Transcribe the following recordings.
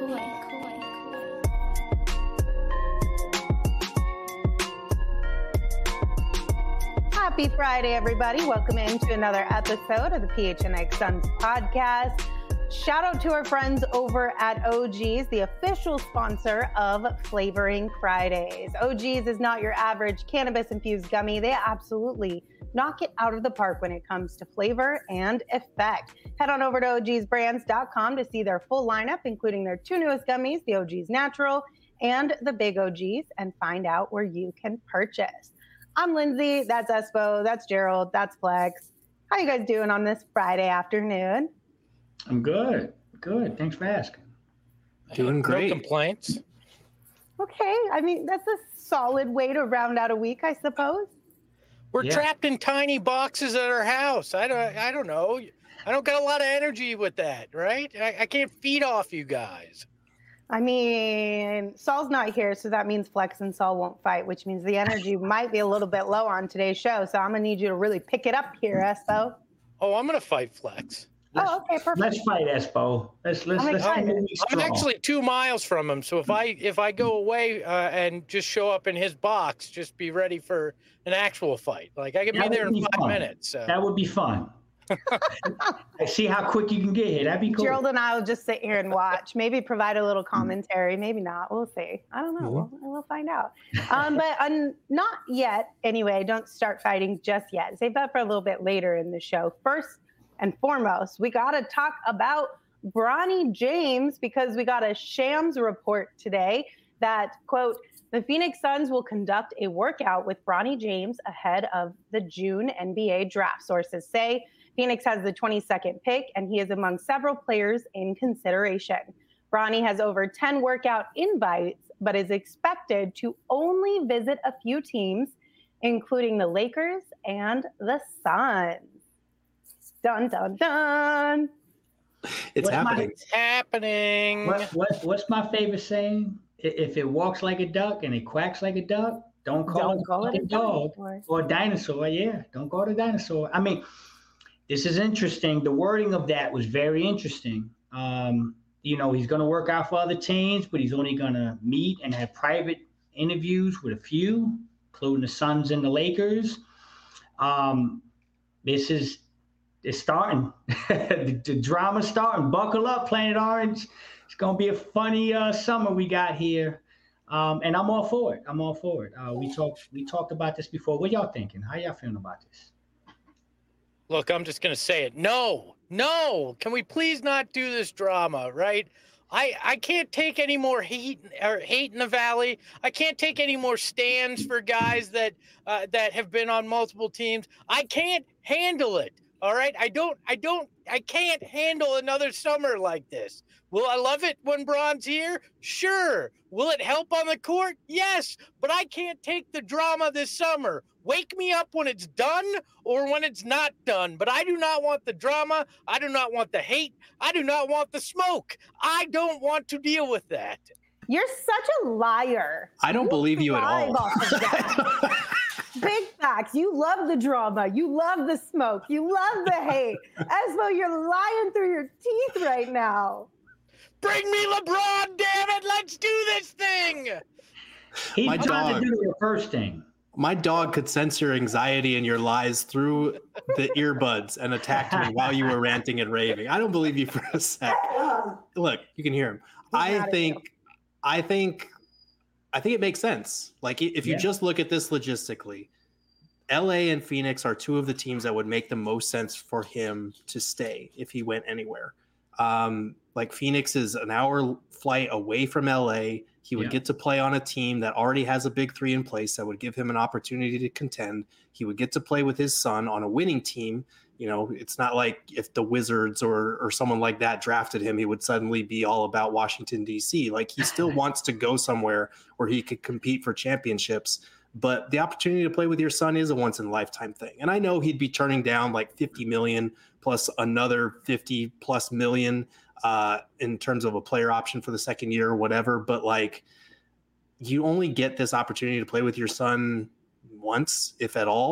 Happy Friday, everybody. Welcome into another episode of the PHNX Suns podcast. Shout out to our friends over at OG's, the official sponsor of Flavoring Fridays. OG's is not your average cannabis-infused gummy. They absolutely knock it out of the park when it comes to flavor and effect. Head on over to ogsbrands.com to see their full lineup, including their two newest gummies, the OG's Natural and the Big OG's, and find out where you can purchase. I'm Lindsay, that's Espo, that's Gerald, that's Flex. How you guys doing on this Friday afternoon? I'm good. Thanks for asking. Doing great. No complaints. Okay. I mean, that's a solid way to round out a week, I suppose. We're trapped in tiny boxes at our house. I don't know. I don't got a lot of energy with that, right? I can't feed off you guys. I mean, Saul's not here, so that means Flex and Saul won't fight, which means the energy might be a little bit low on today's show. So I'm going to need you to really pick it up here, Espo. Oh, I'm going to fight Flex. Okay, perfect. Let's fight, Espo. Let's I'm actually 2 miles from him, so if I go away and just show up in his box, just be ready for an actual fight. Like I could be there in 5 minutes. So. That would be fun. See how quick you can get here. That'd be cool. Gerald and I will just sit here and watch. Maybe provide a little commentary. Maybe not. We'll see. I don't know. We'll find out. But not yet. Anyway, don't start fighting just yet. Save that for a little bit later in the show. First and foremost, we got to talk about Bronny James because we got a Shams report today that, quote, the Phoenix Suns will conduct a workout with Bronny James ahead of the June NBA draft. Sources say Phoenix has the 22nd pick, and he is among several players in consideration. Bronny has over 10 workout invites, but is expected to only visit a few teams, including the Lakers and the Suns. Dun, dun, dun. It's happening. It's happening. What's my favorite saying? If it walks like a duck and it quacks like a duck, don't call it a dog or a dinosaur. Yeah, don't call it a dinosaur. I mean, this is interesting. The wording of that was very interesting. He's going to work out for other teams, but he's only going to meet and have private interviews with a few, including the Suns and the Lakers. It's starting. The drama's starting. Buckle up, Planet Orange. It's going to be a funny summer we got here. And I'm all for it. We talked about this before. What y'all thinking? How y'all feeling about this? Look, I'm just going to say it. No. Can we please not do this drama, right? I can't take any more hate in the Valley. I can't take any more stands for guys that have been on multiple teams. I can't handle it. All right. I can't handle another summer like this. Will I love it when Bron's here? Sure. Will it help on the court? Yes. But I can't take the drama this summer. Wake me up when it's done or when it's not done. But I do not want the drama. I do not want the hate. I do not want the smoke. I don't want to deal with that. You're such a liar. I don't believe you at all. Big facts. You love the drama. You love the smoke. You love the hate. Espo, you're lying through your teeth right now. Bring me LeBron, damn it. Let's do this thing. He's trying to do the first thing. My dog could sense your anxiety and your lies through the earbuds and attacked me while you were ranting and raving. I don't believe you for a sec. Look, you can hear him. I think it makes sense. Like if you just look at this logistically, LA and Phoenix are two of the teams that would make the most sense for him to stay if he went anywhere. Like Phoenix is an hour flight away from LA. He would get to play on a team that already has a big three in place that would give him an opportunity to contend. He would get to play with his son on a winning team. You know, it's not like if the Wizards or someone like that drafted him, he would suddenly be all about Washington, D.C. Like he still wants to go somewhere where he could compete for championships. But the opportunity to play with your son is a once in a lifetime thing. And I know he'd be turning down like 50 million plus another 50 plus million in terms of a player option for the second year or whatever. But like, you only get this opportunity to play with your son once, if at all.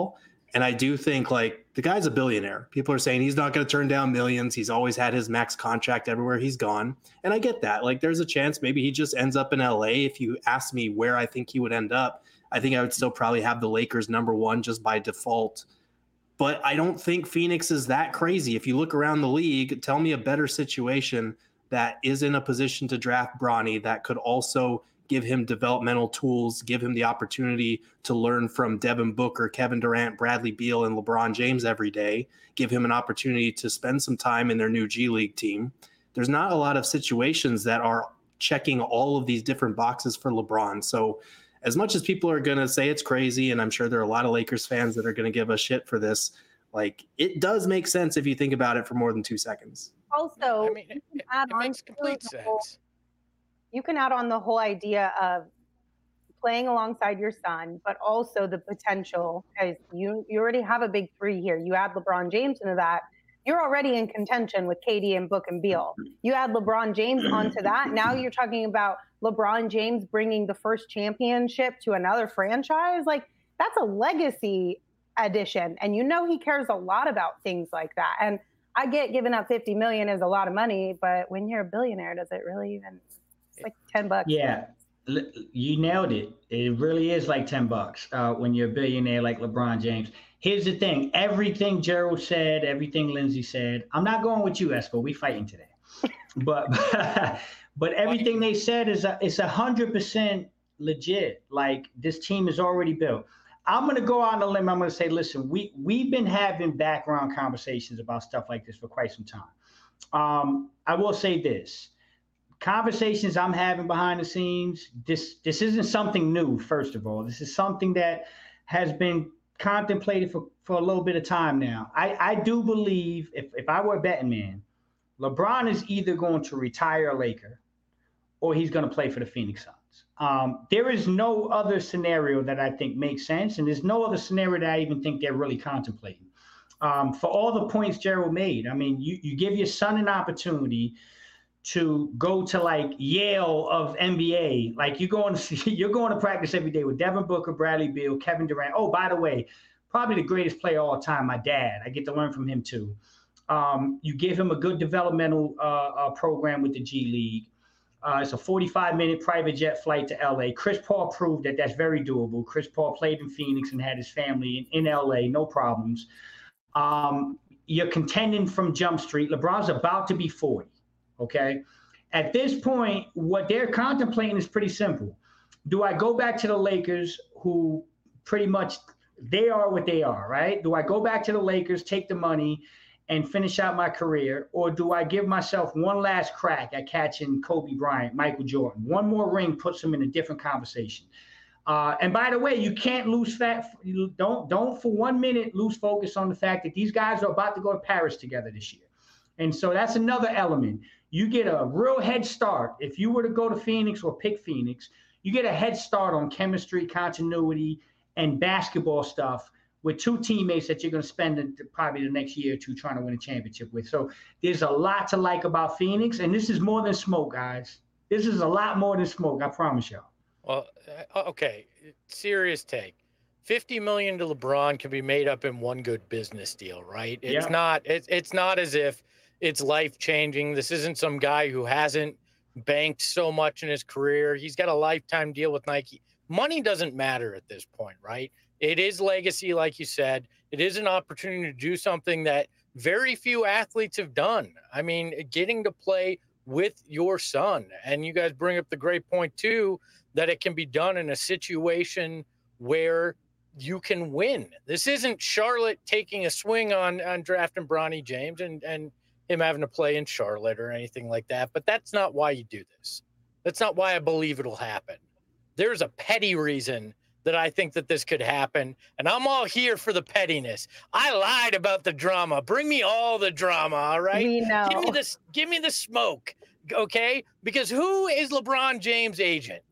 And I do think, like, the guy's a billionaire. People are saying he's not going to turn down millions. He's always had his max contract everywhere he's gone. And I get that. Like, there's a chance maybe he just ends up in LA. If you ask me where I think he would end up, I think I would still probably have the Lakers number one just by default. But I don't think Phoenix is that crazy. If you look around the league, tell me a better situation that is in a position to draft Bronny that could also give him developmental tools, give him the opportunity to learn from Devin Booker, Kevin Durant, Bradley Beal, and LeBron James every day, give him an opportunity to spend some time in their new G League team. There's not a lot of situations that are checking all of these different boxes for LeBron. So as much as people are going to say it's crazy, and I'm sure there are a lot of Lakers fans that are going to give us shit for this, like, it does make sense if you think about it for more than 2 seconds. Also, I mean, it makes complete sense. You can add on the whole idea of playing alongside your son, but also the potential, because you already have a big three here. You add LeBron James into that, you're already in contention with KD and Book and Beal. You add LeBron James onto that, now you're talking about LeBron James bringing the first championship to another franchise. Like, that's a legacy addition, and you know he cares a lot about things like that. And I get giving up $50 million is a lot of money, but when you're a billionaire, does it really even? It's like $10. Yeah, you nailed it. It really is like $10 when you're a billionaire like LeBron James. Here's the thing: everything Gerald said, everything Lindsay said. I'm not going with you, Espo. We fighting today, but everything they said is 100% legit. Like, this team is already built. I'm going to go out on a limb. I'm going to say, listen, we've been having background conversations about stuff like this for quite some time. I will say this. Conversations I'm having behind the scenes, this isn't something new, first of all. This is something that has been contemplated for a little bit of time now. I do believe, if I were a betting man, LeBron is either going to retire a Laker or he's going to play for the Phoenix Suns. There is no other scenario that I think makes sense, and there's no other scenario that I even think they're really contemplating. For all the points Gerald made, I mean, you give your son an opportunity to go to, like, Yale of NBA. Like, you're going to practice every day with Devin Booker, Bradley Beal, Kevin Durant. Oh, by the way, probably the greatest player of all time, my dad. I get to learn from him too. You give him a good developmental program with the G League. It's a 45-minute private jet flight to LA. Chris Paul proved that that's very doable. Chris Paul played in Phoenix and had his family in LA, no problems. You're contending from Jump Street. LeBron's about to be 40. Okay. At this point, what they're contemplating is pretty simple. Do I go back to the Lakers, who pretty much they are what they are, right? Do I go back to the Lakers, take the money, and finish out my career? Or do I give myself one last crack at catching Kobe Bryant, Michael Jordan? One more ring puts them in a different conversation. And by the way, you can't lose don't for 1 minute lose focus on the fact that these guys are about to go to Paris together this year. And so that's another element. You get a real head start. If you were to go to Phoenix or pick Phoenix, you get a head start on chemistry, continuity, and basketball stuff with two teammates that you're going to spend probably the next year or two trying to win a championship with. So there's a lot to like about Phoenix, and this is more than smoke, guys. This is a lot more than smoke, I promise y'all. Well, okay, serious take. $50 million to LeBron can be made up in one good business deal, right? It's not as if it's life-changing. This isn't some guy who hasn't banked so much in his career. He's got a lifetime deal with Nike. Money doesn't matter at this point, right? It is legacy, like you said. It is an opportunity to do something that very few athletes have done. I mean, getting to play with your son. And you guys bring up the great point, too, that it can be done in a situation where you can win. This isn't Charlotte taking a swing on drafting Bronny James and him having to play in Charlotte or anything like that. But that's not why you do this. That's not why I believe it'll happen. There's a petty reason that I think that this could happen, and I'm all here for the pettiness. I lied about the drama. Bring me all the drama, all right? We know. Give me the smoke, okay? Because who is LeBron James' agent?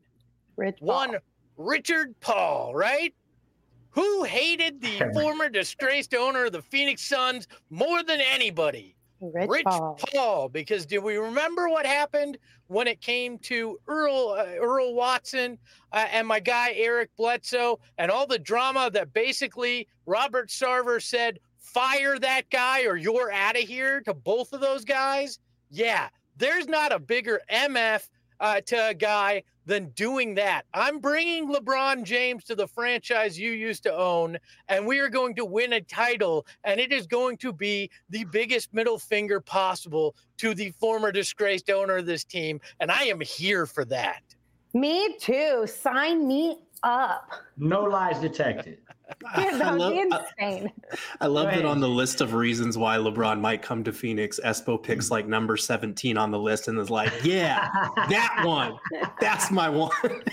Richard Paul, right? Who hated the former disgraced owner of the Phoenix Suns more than anybody? Rich Paul. Because do we remember what happened when it came to Earl Watson and my guy Eric Bledsoe and all the drama that basically Robert Sarver said, fire that guy or you're out of here to both of those guys? Yeah, there's not a bigger MF to a guy than doing that. I'm bringing LeBron James to the franchise you used to own, and we are going to win a title, and it is going to be the biggest middle finger possible to the former disgraced owner of this team, and I am here for that. Me too. Sign me up. No lies detected. Dude, that would be insane. I love that on the list of reasons why LeBron might come to Phoenix, Espo picks like number 17 on the list and is like, yeah, that one. That's my one.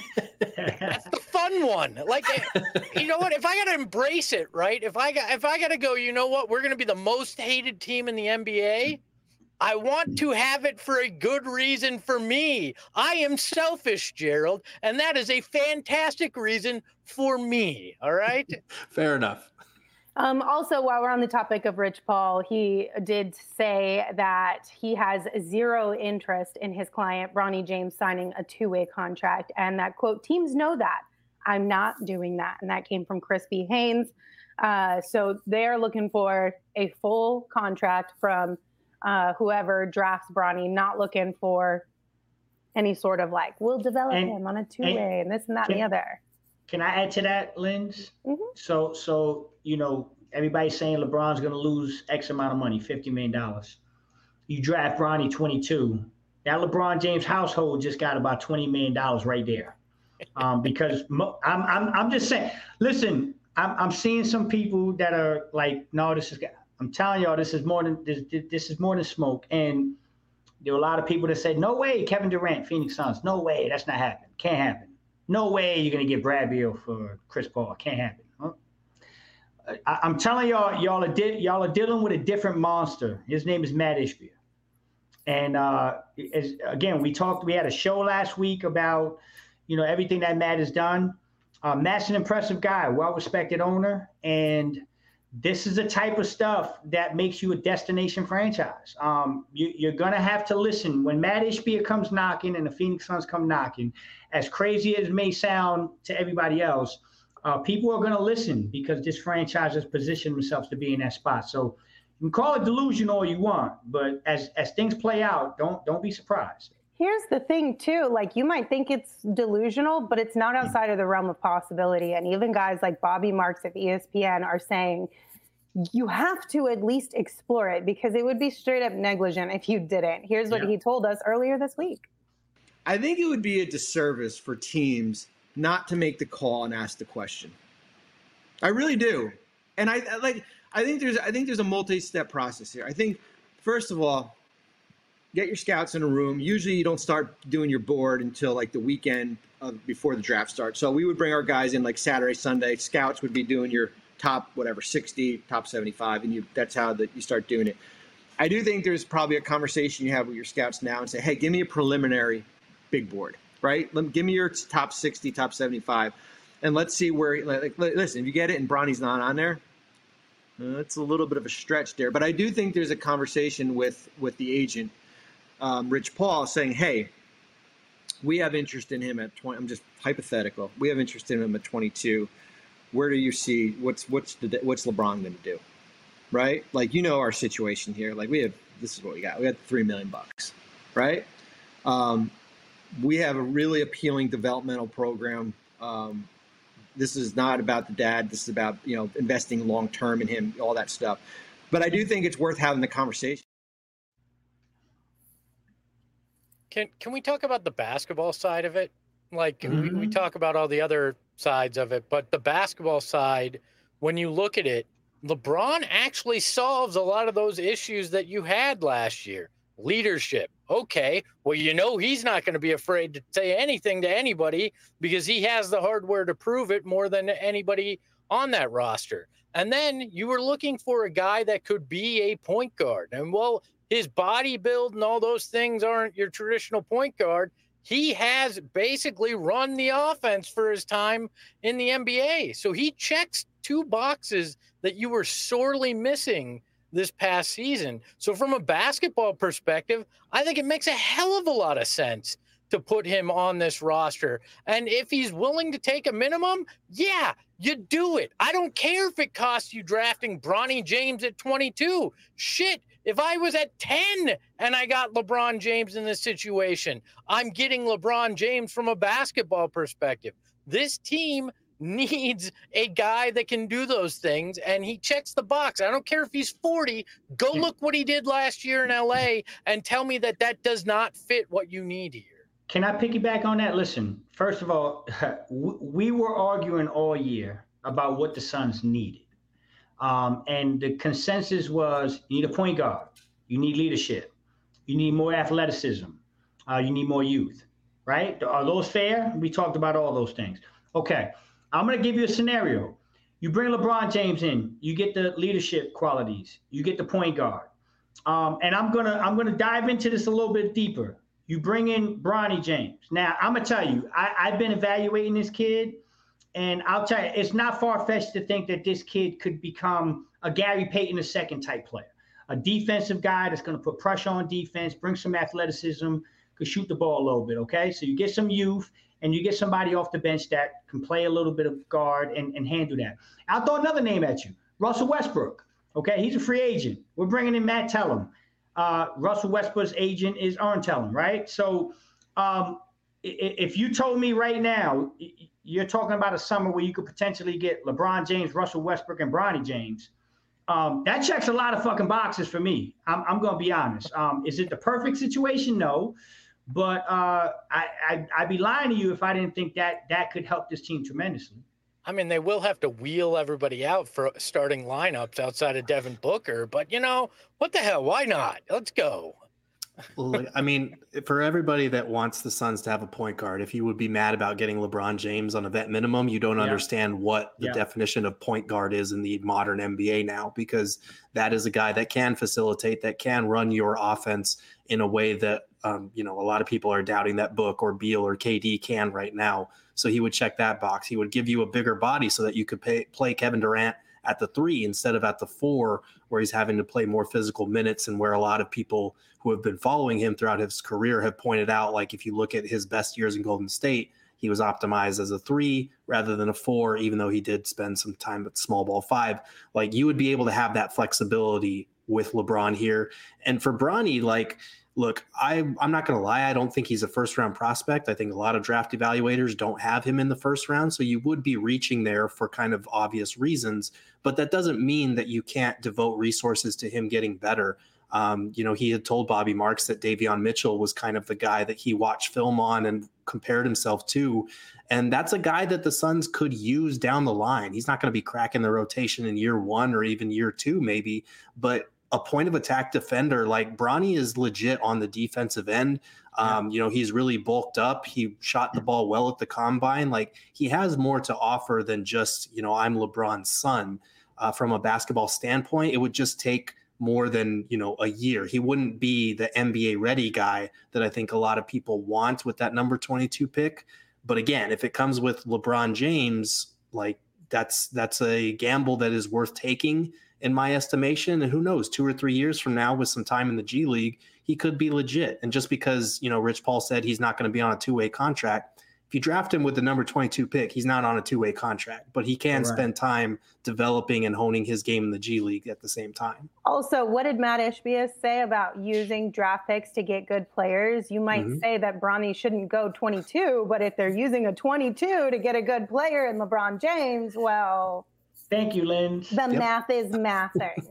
That's the fun one. Like, you know what? If I got to embrace it, right? If I got to go, you know what? We're going to be the most hated team in the NBA. I want to have it for a good reason for me. I am selfish, Gerald, and that is a fantastic reason for me. All right? Fair enough. Also, while we're on the topic of Rich Paul, he did say that he has zero interest in his client, Bronny James, signing a two-way contract, and that, quote, teams know that. I'm not doing that. And that came from Crispy Haynes. So they're looking for a full contract from whoever drafts Bronny, not looking for any sort of like, we'll develop him on a two-way and this and that and the other. Can I add to that, Linz? Mm-hmm. So you know, everybody's saying LeBron's going to lose X amount of money, $50 million. You draft Bronny 22. That LeBron James household just got about $20 million right there. Because I'm just saying, listen, I'm seeing some people that are like, no, I'm telling y'all, this is more than smoke. And there were a lot of people that said, no way, Kevin Durant, Phoenix Suns. No way, that's not happening. Can't happen. No way you're going to get Brad Beal for Chris Paul. Can't happen. Huh? I'm telling y'all are dealing with a different monster. His name is Matt Ishbia. And again, we had a show last week about, you know, everything that Matt has done. Matt's an impressive guy, well-respected owner, and this is the type of stuff that makes you a destination franchise. You're going to have to listen. When Matt Ishbia comes knocking and the Phoenix Suns come knocking, as crazy as it may sound to everybody else, people are going to listen because this franchise has positioned themselves to be in that spot. So you can call it delusion all you want, but as things play out, don't be surprised. Here's the thing, too. Like, you might think it's delusional, but it's not outside of the realm of possibility. And even guys like Bobby Marks of ESPN are saying you have to at least explore it because it would be straight up negligent if you didn't. Here's what he told us earlier this week. I think it would be a disservice for teams not to make the call and ask the question. I really do. And I think there's a multi-step process here. I think, first of all, get your scouts in a room. Usually you don't start doing your board until like the weekend before the draft starts. So we would bring our guys in like Saturday, Sunday. Scouts would be doing your top, 60, top 75, and that's how you start doing it. I do think there's probably a conversation you have with your scouts now and say, hey, give me a preliminary big board, right? Give me your top 60, top 75, and let's see where, listen, if you get it and Bronny's not on there, it's a little bit of a stretch there. But I do think there's a conversation with the agent, Rich Paul, saying, hey, we have interest in him at 20. I'm just hypothetical. We have interest in him at 22. Where do you see what's LeBron going to do, right? Like, you know our situation here. Like, this is what we got. We got $3 million, right? We have a really appealing developmental program. This is not about the dad. This is about, investing long term in him, all that stuff. But I do think it's worth having the conversation. Can we talk about the basketball side of it? Like, we talk about all the other sides of it, but the basketball side, when you look at it, LeBron actually solves a lot of those issues that you had last year. Leadership. Okay, well, he's not going to be afraid to say anything to anybody because he has the hardware to prove it more than anybody on that roster. And then you were looking for a guy that could be a point guard. And, well, his body build and all those things aren't your traditional point guard. He has basically run the offense for his time in the NBA. So he checks two boxes that you were sorely missing this past season. So from a basketball perspective, I think it makes a hell of a lot of sense to put him on this roster. And if he's willing to take a minimum, yeah, you do it. I don't care if it costs you drafting Bronny James at 22. Shit, if I was at 10 and I got LeBron James in this situation, I'm getting LeBron James from a basketball perspective. This team needs a guy that can do those things, and he checks the box. I don't care if he's 40. Go look what he did last year in LA and tell me that that does not fit what you need here. Can I piggyback on that? Listen, first of all, we were arguing all year about what the Suns needed. And the consensus was you need a point guard, you need leadership, you need more athleticism, you need more youth, right? Are those fair? We talked about all those things. Okay, I'm going to give you a scenario. You bring LeBron James in, you get the leadership qualities, you get the point guard. And I'm gonna dive into this a little bit deeper. You bring in Bronny James. Now, I'm going to tell you, I've been evaluating this kid, and I'll tell you, it's not far-fetched to think that this kid could become a Gary Payton II type player, a defensive guy that's going to put pressure on defense, bring some athleticism, could shoot the ball a little bit, okay? So you get some youth, and you get somebody off the bench that can play a little bit of guard and handle that. I'll throw another name at you, Russell Westbrook, okay? He's a free agent. We're bringing in Matt Tellem. Russell Westbrook's agent is Aaron Tellem, right? So if you told me right now, you're talking about a summer where you could potentially get LeBron James, Russell Westbrook, and Bronny James, that checks a lot of fucking boxes for me. I'm going to be honest. Is it the perfect situation? No. But I'd be lying to you if I didn't think that could help this team tremendously. I mean, they will have to wheel everybody out for starting lineups outside of Devin Booker, but what the hell? Why not? Let's go. Well, I mean, for everybody that wants the Suns to have a point guard, if you would be mad about getting LeBron James on a vet minimum, you don't understand what the definition of point guard is in the modern NBA now, because that is a guy that can facilitate, that can run your offense in a way that, a lot of people are doubting that Book or Beal or KD can right now. So he would check that box. He would give you a bigger body so that you could play Kevin Durant at the 3 instead of at the 4, where he's having to play more physical minutes, and where a lot of people who have been following him throughout his career have pointed out, like if you look at his best years in Golden State, he was optimized as a 3 rather than a 4, even though he did spend some time at small ball 5. Like, you would be able to have that flexibility with LeBron here. And for Bronny, look, I'm not going to lie. I don't think he's a first-round prospect. I think a lot of draft evaluators don't have him in the first round, so you would be reaching there for kind of obvious reasons. But that doesn't mean that you can't devote resources to him getting better. He had told Bobby Marks that Davion Mitchell was kind of the guy that he watched film on and compared himself to. And that's a guy that the Suns could use down the line. He's not going to be cracking the rotation in year 1 or even year 2, maybe, but a point of attack defender like Bronny is legit on the defensive end. He's really bulked up. He shot the ball well at the combine. Like, he has more to offer than just, I'm LeBron's son. From a basketball standpoint, it would just take more than, a year. He wouldn't be the NBA ready guy that I think a lot of people want with that number 22 pick. But again, if it comes with LeBron James, like, that's a gamble that is worth taking in my estimation. And who knows, 2 or 3 years from now with some time in the G League, he could be legit. And just because, Rich Paul said he's not going to be on a 2-way contract, if you draft him with the number 22 pick, he's not on a 2-way contract, but he can spend time developing and honing his game in the G League at the same time. Also, what did Matt Ishbia say about using draft picks to get good players? You might say that Bronny shouldn't go 22, but if they're using a 22 to get a good player in LeBron James, well... Thank you, Lynn. The math is mathing.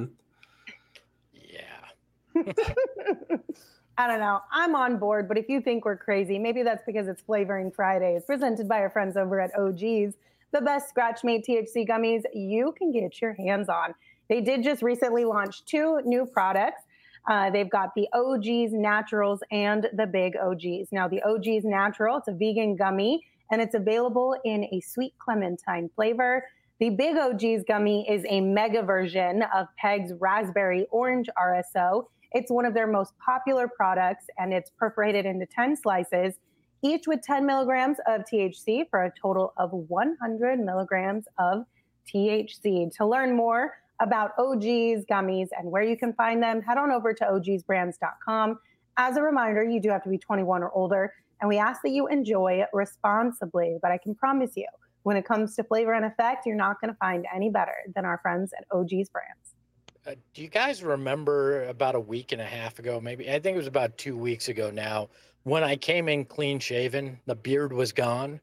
Yeah. I don't know. I'm on board, but if you think we're crazy, maybe that's because it's Flavoring Fridays, presented by our friends over at OG's, the best scratch-made THC gummies you can get your hands on. They did just recently launch 2 new products. They've got the OG's Naturals and the Big OG's. Now, the OG's Natural, it's a vegan gummy, and it's available in a sweet clementine flavor. The Big OG's gummy is a mega version of Peg's Raspberry Orange RSO. It's one of their most popular products, and it's perforated into 10 slices, each with 10 milligrams of THC for a total of 100 milligrams of THC. To learn more about OG's gummies and where you can find them, head on over to ogsbrands.com. As a reminder, you do have to be 21 or older, and we ask that you enjoy it responsibly. But I can promise you, when it comes to flavor and effect, you're not going to find any better than our friends at OG's Brands. Do you guys remember about a week and a half ago, maybe, I think it was about 2 weeks ago now, when I came in clean shaven, the beard was gone?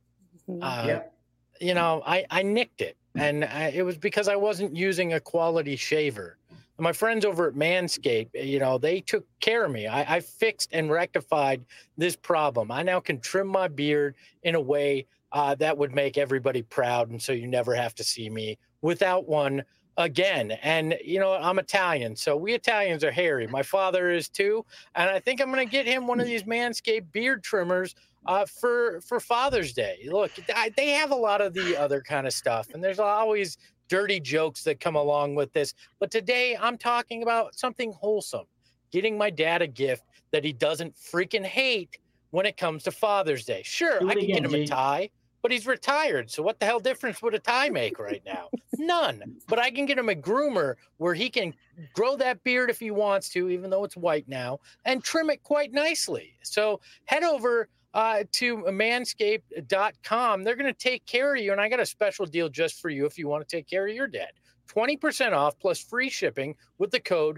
You know, I nicked it, and it was because I wasn't using a quality shaver. My friends over at Manscaped, you know, they took care of me. I fixed and rectified this problem. I now can trim my beard in a way that would make everybody proud, and so you never have to see me without one again. And, you know, I'm Italian, so we Italians are hairy. My father is too, and I think I'm going to get him one of these Manscaped beard trimmers for Father's Day. Look, they have a lot of the other kind of stuff, and there's always dirty jokes that come along with this. But today I'm talking about something wholesome, getting my dad a gift that he doesn't freaking hate when it comes to Father's Day. Sure, I can get him a tie, but he's retired. So what the hell difference would a tie make right now? None. But I can get him a groomer where he can grow that beard if he wants to, even though it's white now, and trim it quite nicely. So head over to manscaped.com. They're going to take care of you. And I got a special deal just for you if you want to take care of your dad. 20% off plus free shipping with the code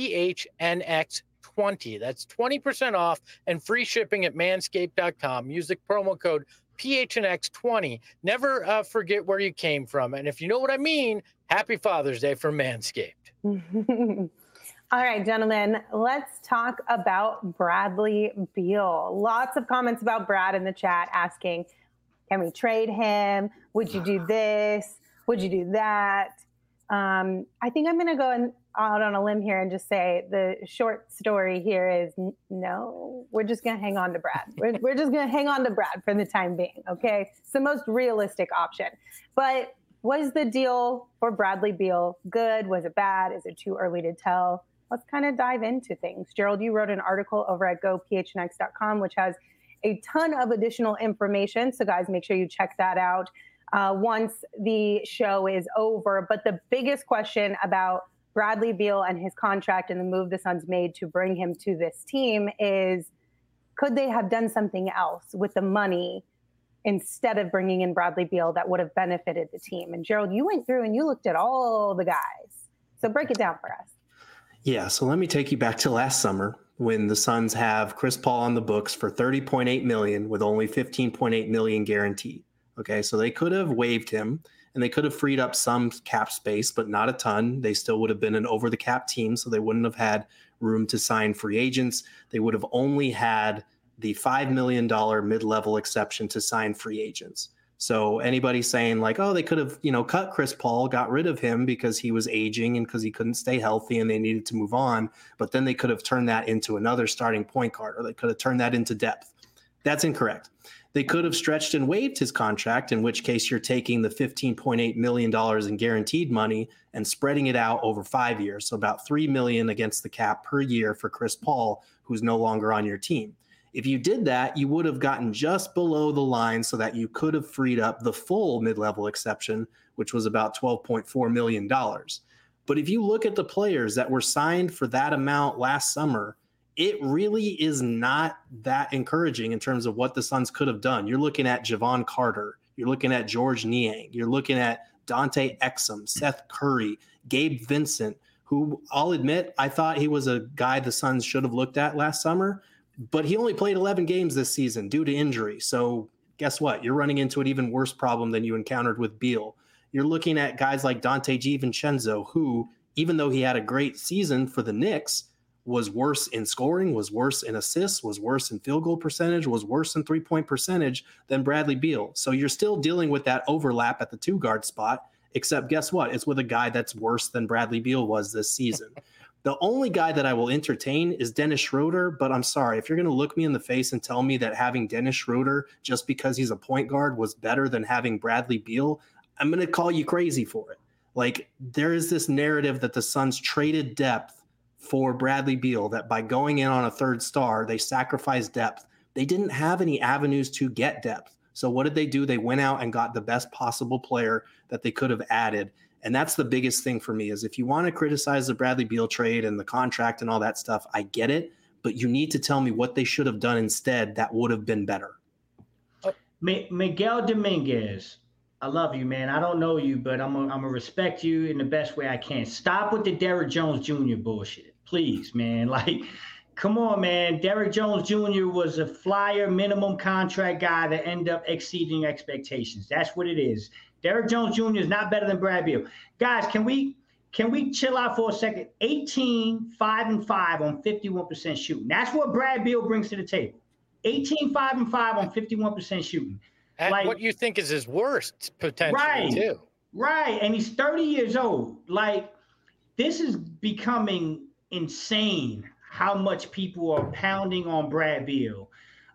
PHNX20. That's 20% off and free shipping at manscaped.com. Use the promo code PHNX20. Never forget where you came from. And if you know what I mean, happy Father's Day from Manscaped. All right, gentlemen, let's talk about Bradley Beal. Lots of comments about Brad in the chat asking, can we trade him? Would you do this? Would you do that? I think I'm going to go out on a limb here and just say the short story here is no, we're just going to hang on to Brad. We're just going to hang on to Brad for the time being, okay? It's the most realistic option. But was the deal for Bradley Beal good? Was it bad? Is it too early to tell? Let's kind of dive into things. Gerald, you wrote an article over at gophnx.com, which has a ton of additional information. So guys, make sure you check that out once the show is over. But the biggest question about Bradley Beal and his contract and the move the Suns made to bring him to this team is, could they have done something else with the money instead of bringing in Bradley Beal that would have benefited the team? And Gerald, you went through and you looked at all the guys. So break it down for us. Yeah, so let me take you back to last summer when the Suns have Chris Paul on the books for $30.8 million with only $15.8 million guaranteed. Okay, so they could have waived him and they could have freed up some cap space, but not a ton. They still would have been an over-the-cap team, so they wouldn't have had room to sign free agents. They would have only had the $5 million mid-level exception to sign free agents. So anybody saying like, oh, they could have, cut Chris Paul, got rid of him because he was aging and because he couldn't stay healthy and they needed to move on. But then they could have turned that into another starting point guard, or they could have turned that into depth. That's incorrect. They could have stretched and waived his contract, in which case you're taking the $15.8 million in guaranteed money and spreading it out over 5 years. So about $3 million against the cap per year for Chris Paul, who's no longer on your team. If you did that, you would have gotten just below the line so that you could have freed up the full mid-level exception, which was about $12.4 million. But if you look at the players that were signed for that amount last summer, it really is not that encouraging in terms of what the Suns could have done. You're looking at Javon Carter. You're looking at George Niang. You're looking at Dante Exum, Seth Curry, Gabe Vincent, who I'll admit, I thought he was a guy the Suns should have looked at last summer. But he only played 11 games this season due to injury. So guess what? You're running into an even worse problem than you encountered with Beal. You're looking at guys like Dante DiVincenzo, who, even though he had a great season for the Knicks, was worse in scoring, was worse in assists, was worse in field goal percentage, was worse in three-point percentage than Bradley Beal. So you're still dealing with that overlap at the two-guard spot, except guess what? It's with a guy that's worse than Bradley Beal was this season. The only guy that I will entertain is Dennis Schroeder, but I'm sorry, if you're going to look me in the face and tell me that having Dennis Schroeder just because he's a point guard was better than having Bradley Beal, I'm going to call you crazy for it. Like, there is this narrative that the Suns traded depth for Bradley Beal, that by going in on a third star, they sacrificed depth. They didn't have any avenues to get depth. So what did they do? They went out and got the best possible player that they could have added. And that's the biggest thing for me is if you want to criticize the Bradley Beal trade and the contract and all that stuff, I get it. But you need to tell me what they should have done instead that would have been better. Miguel Dominguez, I love you, man. I don't know you, but I'm gonna respect you in the best way I can. Stop with the Derrick Jones Jr. bullshit, please, man. Like, come on, man. Derrick Jones Jr. was a flyer minimum contract guy that ended up exceeding expectations. That's what it is. Derrick Jones Jr. is not better than Brad Beal. Guys, can we chill out for a second? 18, 5 and 5 on 51% shooting. That's what Brad Beal brings to the table. 18, 5 and 5 on 51% shooting. And like, what you think is his worst potential, right, too. Right. And he's 30 years old. Like, this is becoming insane how much people are pounding on Brad Beal.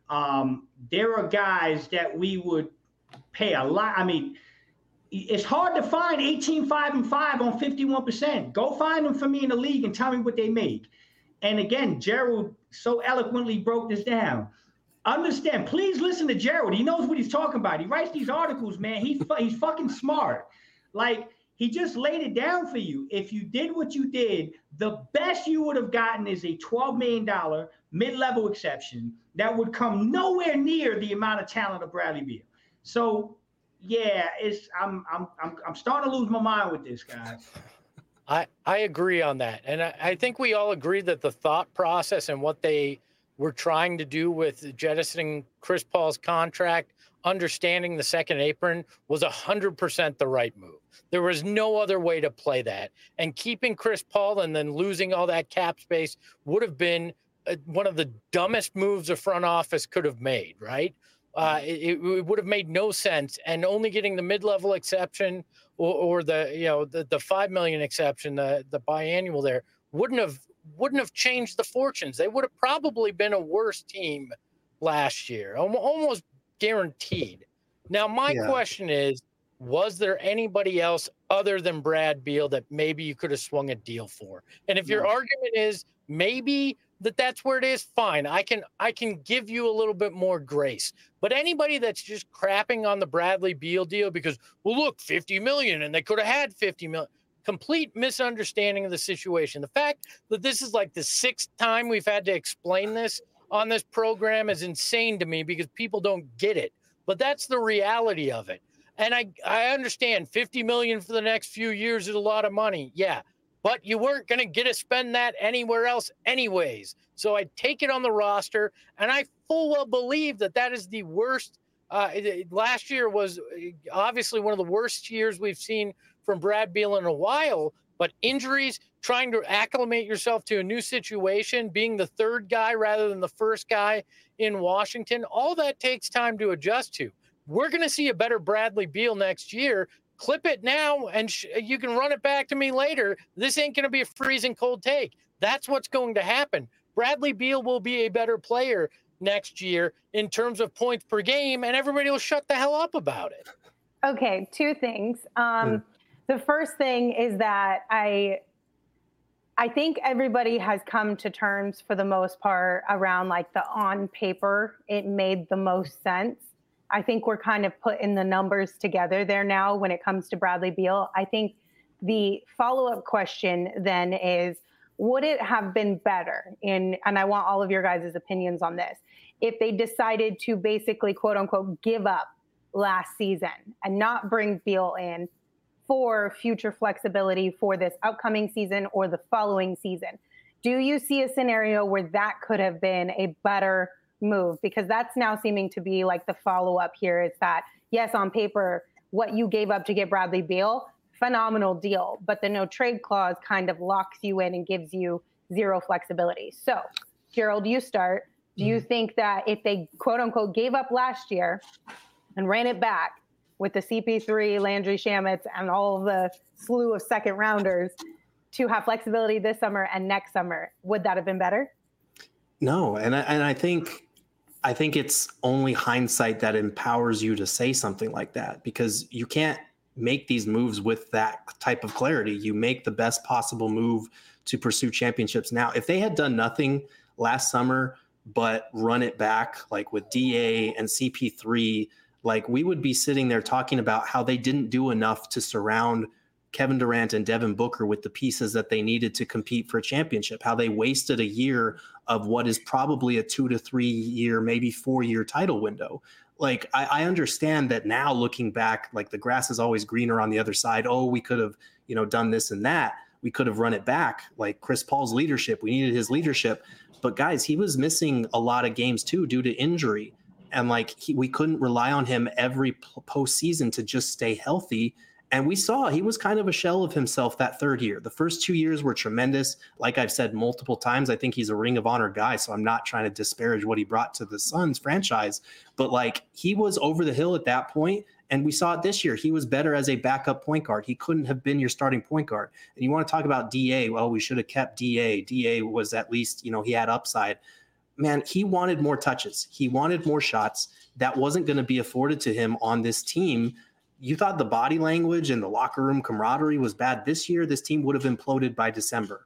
There are guys that we would pay a lot. I mean, it's hard to find 18, 5 and 5 on 51%. Go find them for me in the league and tell me what they make. And again, Gerald so eloquently broke this down. Understand, please listen to Gerald. He knows what he's talking about. He writes these articles, man. He's fucking smart. Like, he just laid it down for you. If you did what you did, the best you would have gotten is a $12 million mid-level exception that would come nowhere near the amount of talent of Bradley Beal. So, yeah, I'm starting to lose my mind with this, guys. I agree on that. And I think we all agree that the thought process and what they were trying to do with jettisoning Chris Paul's contract, understanding the second apron, was 100% the right move. There was no other way to play that. And keeping Chris Paul and then losing all that cap space would have been one of the dumbest moves a front office could have made, right? It would have made no sense. And only getting the mid-level exception or the $5 million exception, the biannual there, wouldn't have changed the fortunes. They would have probably been a worse team last year, almost guaranteed. Now, my question is, was there anybody else other than Brad Beal that maybe you could have swung a deal for? And if your argument is maybe that's where it is, fine. I can give you a little bit more grace. But anybody that's just crapping on the Bradley Beal deal because, well, look, $50 million and they could have had $50 million. Complete misunderstanding of the situation. The fact that this is like the 6th time we've had to explain this on this program is insane to me because people don't get it. But that's the reality of it. And I understand $50 million for the next few years is a lot of money. Yeah. But you weren't going to get to spend that anywhere else anyways. So I take it on the roster, and I full well believe that is the worst. Last year was obviously one of the worst years we've seen from Brad Beal in a while, but injuries, trying to acclimate yourself to a new situation, being the third guy rather than the first guy in Washington, all that takes time to adjust to. We're going to see a better Bradley Beal next year. Clip it now, and you can run it back to me later. This ain't going to be a freezing cold take. That's what's going to happen. Bradley Beal will be a better player next year in terms of points per game, and everybody will shut the hell up about it. Okay, 2 things. The first thing is that I think everybody has come to terms for the most part around like the on paper, it made the most sense. I think we're kind of putting the numbers together there now when it comes to Bradley Beal. I think the follow-up question then is, would it have been better and I want all of your guys' opinions on this, if they decided to basically, quote unquote, give up last season and not bring Beal in for future flexibility for this upcoming season or the following season? Do you see a scenario where that could have been a better move? Because that's now seeming to be like the follow-up here. It's that, yes, on paper, what you gave up to get Bradley Beal, phenomenal deal, but the no trade clause kind of locks you in and gives you zero flexibility. So, Gerald, you start. Do you think that if they, quote unquote, gave up last year and ran it back with the CP3, Landry Shamet, and all of the slew of second rounders to have flexibility this summer and next summer, would that have been better? No. And I think it's only hindsight that empowers you to say something like that, because you can't make these moves with that type of clarity. You make the best possible move to pursue championships now. If they had done nothing last summer but run it back, like with DA and CP3, like we would be sitting there talking about how they didn't do enough to surround Kevin Durant and Devin Booker with the pieces that they needed to compete for a championship, how they wasted a year of what is probably a 2 to 3 year, maybe 4-year title window. Like, I understand that now looking back, like the grass is always greener on the other side. Oh, we could have, done this and that. We could have run it back. Like Chris Paul's leadership, we needed his leadership. But guys, he was missing a lot of games too due to injury. And like we couldn't rely on him every postseason to just stay healthy. And we saw he was kind of a shell of himself that third year. The first 2 years were tremendous. Like I've said multiple times, I think he's a Ring of Honor guy. So I'm not trying to disparage what he brought to the Suns franchise. But like he was over the hill at that point. And we saw it this year. He was better as a backup point guard. He couldn't have been your starting point guard. And you want to talk about DA. Well, we should have kept DA. DA was at least, he had upside. Man, he wanted more touches. He wanted more shots. That wasn't going to be afforded to him on this team. You thought the body language and the locker room camaraderie was bad this year. This team would have imploded by December.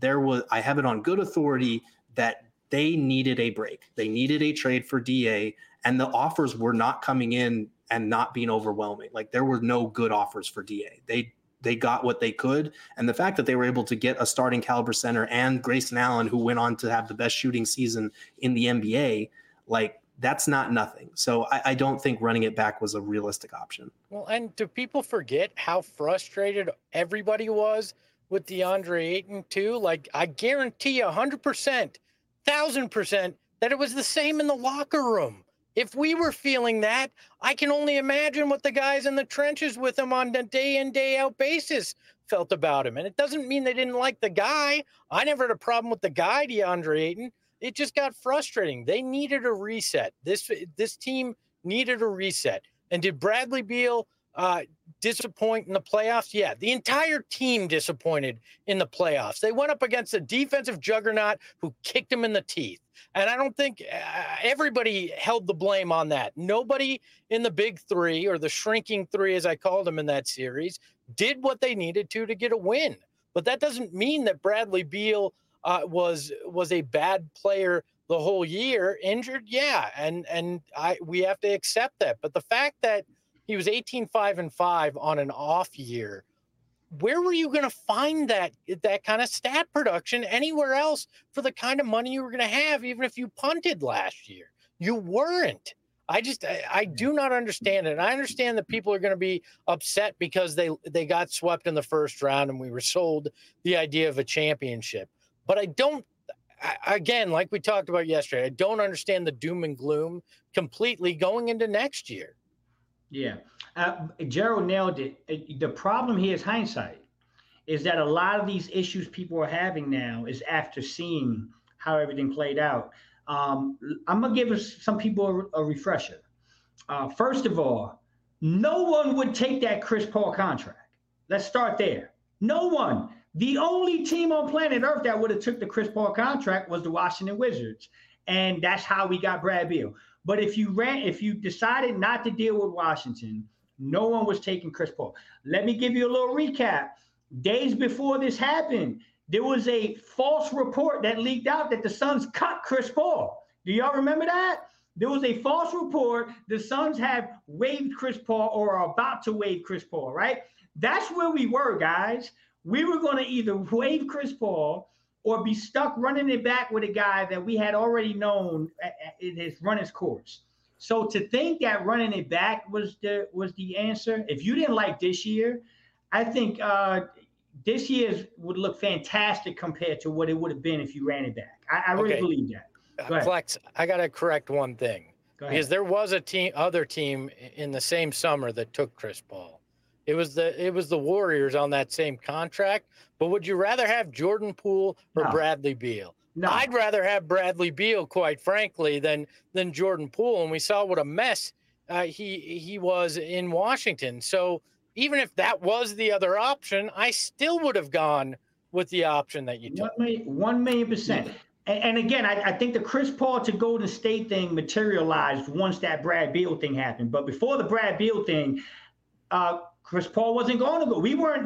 I have it on good authority that they needed a break. They needed a trade for DA, and the offers were not coming in and not being overwhelming. Like there were no good offers for DA. They got what they could. And the fact that they were able to get a starting caliber center and Grayson Allen, who went on to have the best shooting season in the NBA, like that's not nothing. So I don't think running it back was a realistic option. Well, and do people forget how frustrated everybody was with DeAndre Ayton too? Like I guarantee you 100%, 1,000% that it was the same in the locker room. If we were feeling that, I can only imagine what the guys in the trenches with him on a day in, day out basis felt about him. And it doesn't mean they didn't like the guy. I never had a problem with the guy, DeAndre Ayton. It just got frustrating. They needed a reset. This team needed a reset. And did Bradley Beal disappoint in the playoffs? Yeah, the entire team disappointed in the playoffs. They went up against a defensive juggernaut who kicked them in the teeth. And I don't think everybody held the blame on that. Nobody in the big three, or the shrinking three, as I called them in that series, did what they needed to get a win. But that doesn't mean that Bradley Beal was a bad player the whole year. Injured, yeah, and we have to accept that. But the fact that he was 18-5-5 on an off year, where were you going to find that kind of stat production anywhere else for the kind of money you were going to have, even if you punted last year? You weren't. I do not understand it. And I understand that people are going to be upset because they got swept in the first round and we were sold the idea of a championship. But again, like we talked about yesterday, I don't understand the doom and gloom completely going into next year. Yeah. Gerald nailed it. The problem here is hindsight, is that a lot of these issues people are having now is after seeing how everything played out. I'm going to give some people a refresher. First of all, no one would take that Chris Paul contract. Let's start there. No one. The only team on planet Earth that would have took the Chris Paul contract was the Washington Wizards. And that's how we got Brad Beal. But if you decided not to deal with Washington, no one was taking Chris Paul. Let me give you a little recap. Days before this happened, there was a false report that leaked out that the Suns cut Chris Paul. Do y'all remember that? There was a false report. The Suns have waived Chris Paul or are about to waive Chris Paul, right? That's where we were, guys. We were going to either waive Chris Paul or be stuck running it back with a guy that we had already known it has run its course. So to think that running it back was the answer, if you didn't like this year, I think this year's would look fantastic compared to what it would have been if you ran it back. I really believe that. Flex, I got to correct one thing. Because there was other team in the same summer that took Chris Paul. It was the Warriors on that same contract. But would you rather have Jordan Poole or Bradley Beal? No. I'd rather have Bradley Beal, quite frankly, than Jordan Poole. And we saw what a mess he was in Washington. So even if that was the other option, I still would have gone with the option that you took. 1,000,000%. And again, I think the Chris Paul to Golden State thing materialized once that Brad Beal thing happened. But before the Brad Beal thing, Chris Paul wasn't going to go.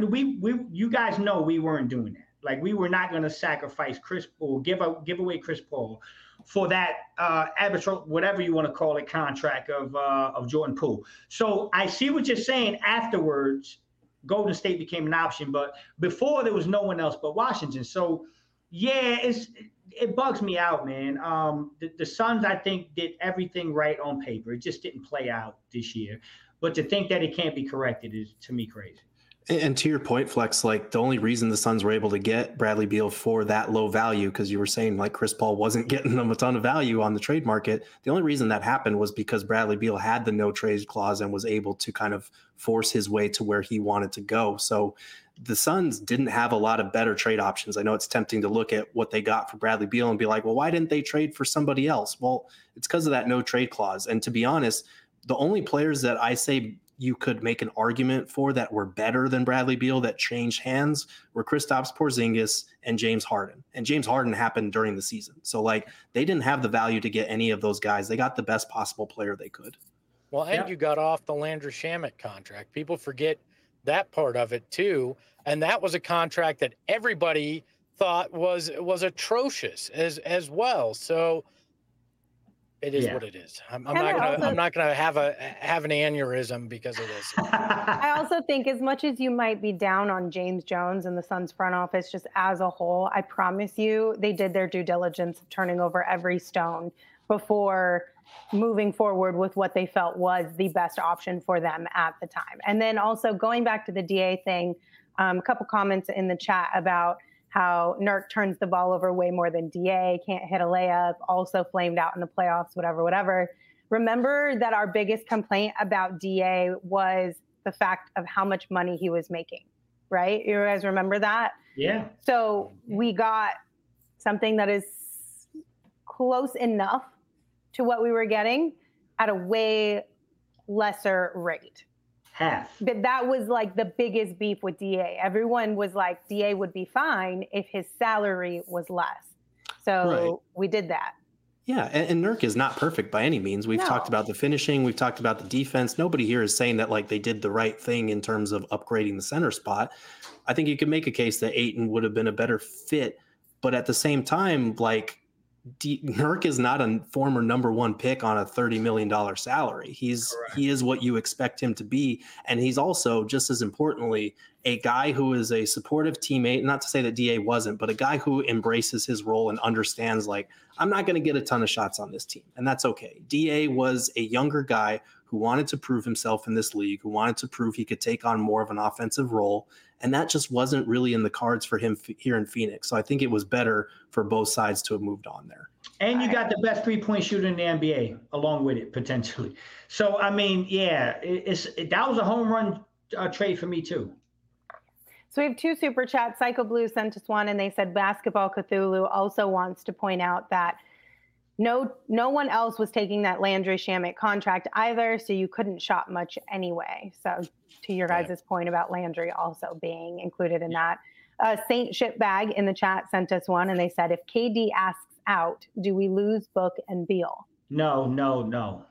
You guys know we weren't doing that. Like, we were not going to sacrifice Chris Paul, give away Chris Paul for that arbitral, whatever you want to call it, contract of Jordan Poole. So I see what you're saying afterwards. Golden State became an option, but before there was no one else but Washington. So, yeah, it bugs me out, man. The Suns, I think, did everything right on paper. It just didn't play out this year. But to think that it can't be corrected is, to me, crazy. And to your point, Flex, like the only reason the Suns were able to get Bradley Beal for that low value, because you were saying like Chris Paul wasn't getting them a ton of value on the trade market. The only reason that happened was because Bradley Beal had the no trade clause and was able to kind of force his way to where he wanted to go. So the Suns didn't have a lot of better trade options. I know it's tempting to look at what they got for Bradley Beal and be like, well, why didn't they trade for somebody else? Well, it's because of that no trade clause. And to be honest, the only players that I say you could make an argument for that were better than Bradley Beal that changed hands were Kristaps Porzingis and James Harden. And James Harden happened during the season. So like they didn't have the value to get any of those guys. They got the best possible player they could. Well, and you got off the Landry Shamet contract. People forget that part of it too. And that was a contract that everybody thought was atrocious as well. So it is what it is. I'm not gonna have an aneurysm because of this. I also think as much as you might be down on James Jones and the Suns front office just as a whole, I promise you they did their due diligence of turning over every stone before moving forward with what they felt was the best option for them at the time. And then also going back to the DA thing, a couple comments in the chat about how Nurk turns the ball over way more than DA, can't hit a layup, also flamed out in the playoffs, whatever. Remember that our biggest complaint about DA was the fact of how much money he was making, right? You guys remember that? Yeah. So we got something that is close enough to what we were getting at a way lesser rate. Half. But that was like the biggest beef with DA. Everyone was like, DA would be fine if his salary was less. So we did that. Yeah, and Nurk is not perfect by any means. We've talked about the finishing. We've talked about the defense. Nobody here is saying that like they did the right thing in terms of upgrading the center spot. I think you could make a case that Ayton would have been a better fit. But at the same time, like Nurk is not a former number one pick on a $30 million salary. He is what you expect him to be. And he's also, just as importantly, a guy who is a supportive teammate, not to say that DA wasn't, but a guy who embraces his role and understands like, I'm not going to get a ton of shots on this team. And that's okay. DA was a younger guy who wanted to prove himself in this league, who wanted to prove he could take on more of an offensive role. And that just wasn't really in the cards for him here in Phoenix. So I think it was better for both sides to have moved on there. And you got the best three-point shooter in the NBA along with it, potentially. So, I mean, yeah, that was a home run trade for me, too. So we have two super chats. Psycho Blue sent us one, and they said Basketball Cthulhu also wants to point out that no one else was taking that Landry Shamet contract either, so you couldn't shop much anyway. So to your guys' point about Landry also being included in that. Saint Shitbag in the chat sent us one, and they said, if KD asks out, do we lose Book and Beal? No. No,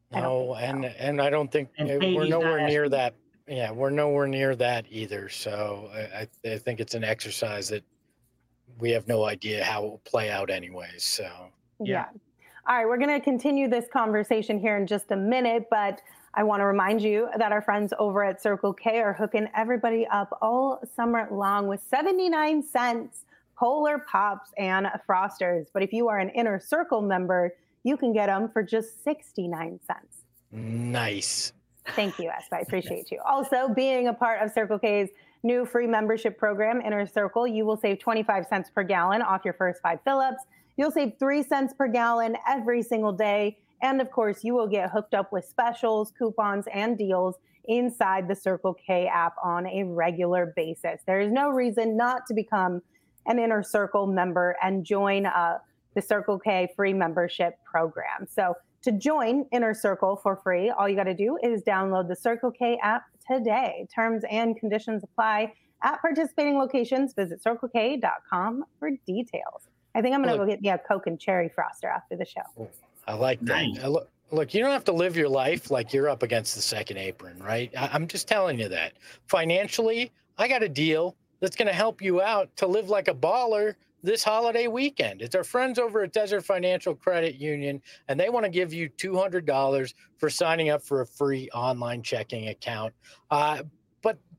and I don't think we're nowhere near that. Yeah, we're nowhere near that either. So I think it's an exercise that we have no idea how it will play out anyways. So yeah. All right, we're going to continue this conversation here in just a minute, but I want to remind you that our friends over at Circle K are hooking everybody up all summer long with 79 cents Polar Pops and Frosters. But if you are an Inner Circle member, you can get them for just 69 cents. Nice. Thank you, Esp. I appreciate you. Also, being a part of Circle K's new free membership program, Inner Circle, you will save 25 cents per gallon off your first 5 fill-ups. You'll save 3 cents per gallon every single day. And of course, you will get hooked up with specials, coupons, and deals inside the Circle K app on a regular basis. There is no reason not to become an Inner Circle member and join the Circle K free membership program. So to join Inner Circle for free, all you got to do is download the Circle K app today. Terms and conditions apply at participating locations. Visit circlek.com for details. I think I'm going to go get me a Coke and Cherry Froster after the show. I like that. Nice. Look, you don't have to live your life like you're up against the second apron, right? I'm just telling you that. Financially, I got a deal that's going to help you out to live like a baller this holiday weekend. It's our friends over at Desert Financial Credit Union, and they want to give you $200 for signing up for a free online checking account. But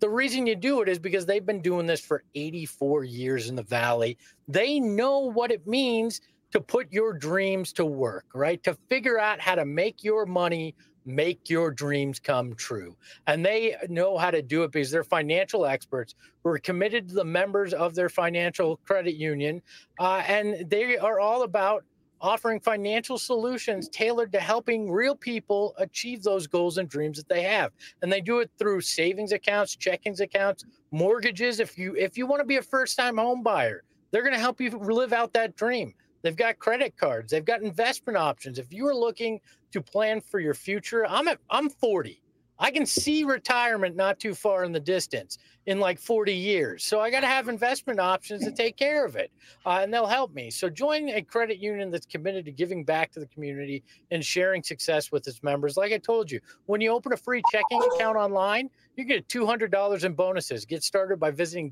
The reason you do it is because they've been doing this for 84 years in the Valley. They know what it means to put your dreams to work, right? To figure out how to make your money, make your dreams come true. And they know how to do it because they're financial experts who are committed to the members of their financial credit union. And they are all about offering financial solutions tailored to helping real people achieve those goals and dreams that they have. And they do it through savings accounts, checkings accounts, mortgages. If you want to be a first-time home buyer, they're going to help you live out that dream. They've got credit cards. They've got investment options. If you are looking to plan for your future, I'm 40. I can see retirement not too far in the distance in like 40 years. So I got to have investment options to take care of it, and they'll help me. So join a credit union that's committed to giving back to the community and sharing success with its members. Like I told you, when you open a free checking account online, you get $200 in bonuses. Get started by visiting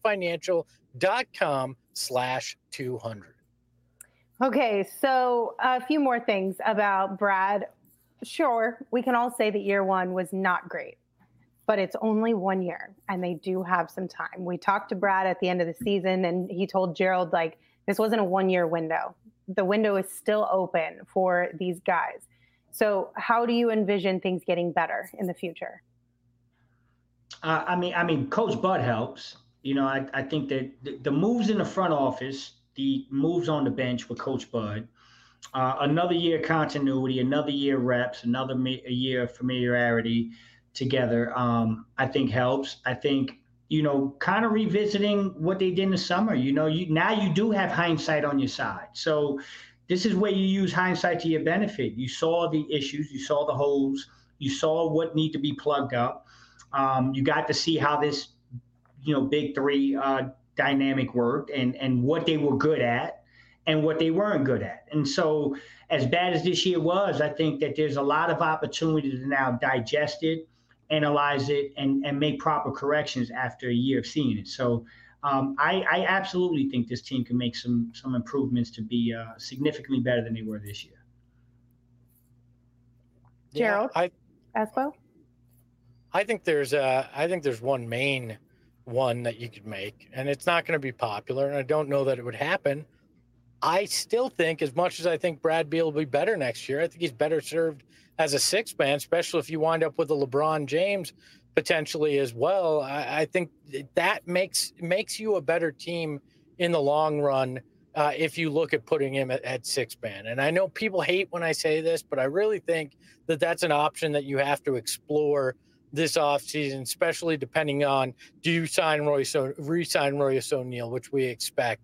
desertfinancial.com/200. Okay, so a few more things about Brad. Sure, we can all say that year one was not great, but it's only 1 year and they do have some time. We talked to Brad at the end of the season and he told Gerald, like, this wasn't a 1 year window. The window is still open for these guys. So how do you envision things getting better in the future? I mean, Coach Bud helps. You know, I think that the moves in the front office, the moves on the bench with Coach Bud, another year continuity, another year reps, a year of familiarity together, I think helps. I think, you know, kind of revisiting what they did in the summer. You know, now you do have hindsight on your side. So this is where you use hindsight to your benefit. You saw the issues, you saw the holes, you saw what need to be plugged up. You got to see how this, you know, big three dynamic worked and what they were good at and what they weren't good at. And so as bad as this year was, I think that there's a lot of opportunity to now digest it, analyze it, and make proper corrections after a year of seeing it. So I absolutely think this team can make some improvements to be significantly better than they were this year. Gerald, Espo? I think there's one main one that you could make, and it's not going to be popular, and I don't know that it would happen. I still think, as much as I think Brad Beal will be better next year, I think he's better served as a sixth man, especially if you wind up with a LeBron James potentially as well. I think that makes you a better team in the long run if you look at putting him at sixth man. And I know people hate when I say this, but I really think that that's an option that you have to explore this offseason, especially depending on, do you re-sign Royce O'Neal, which we expect,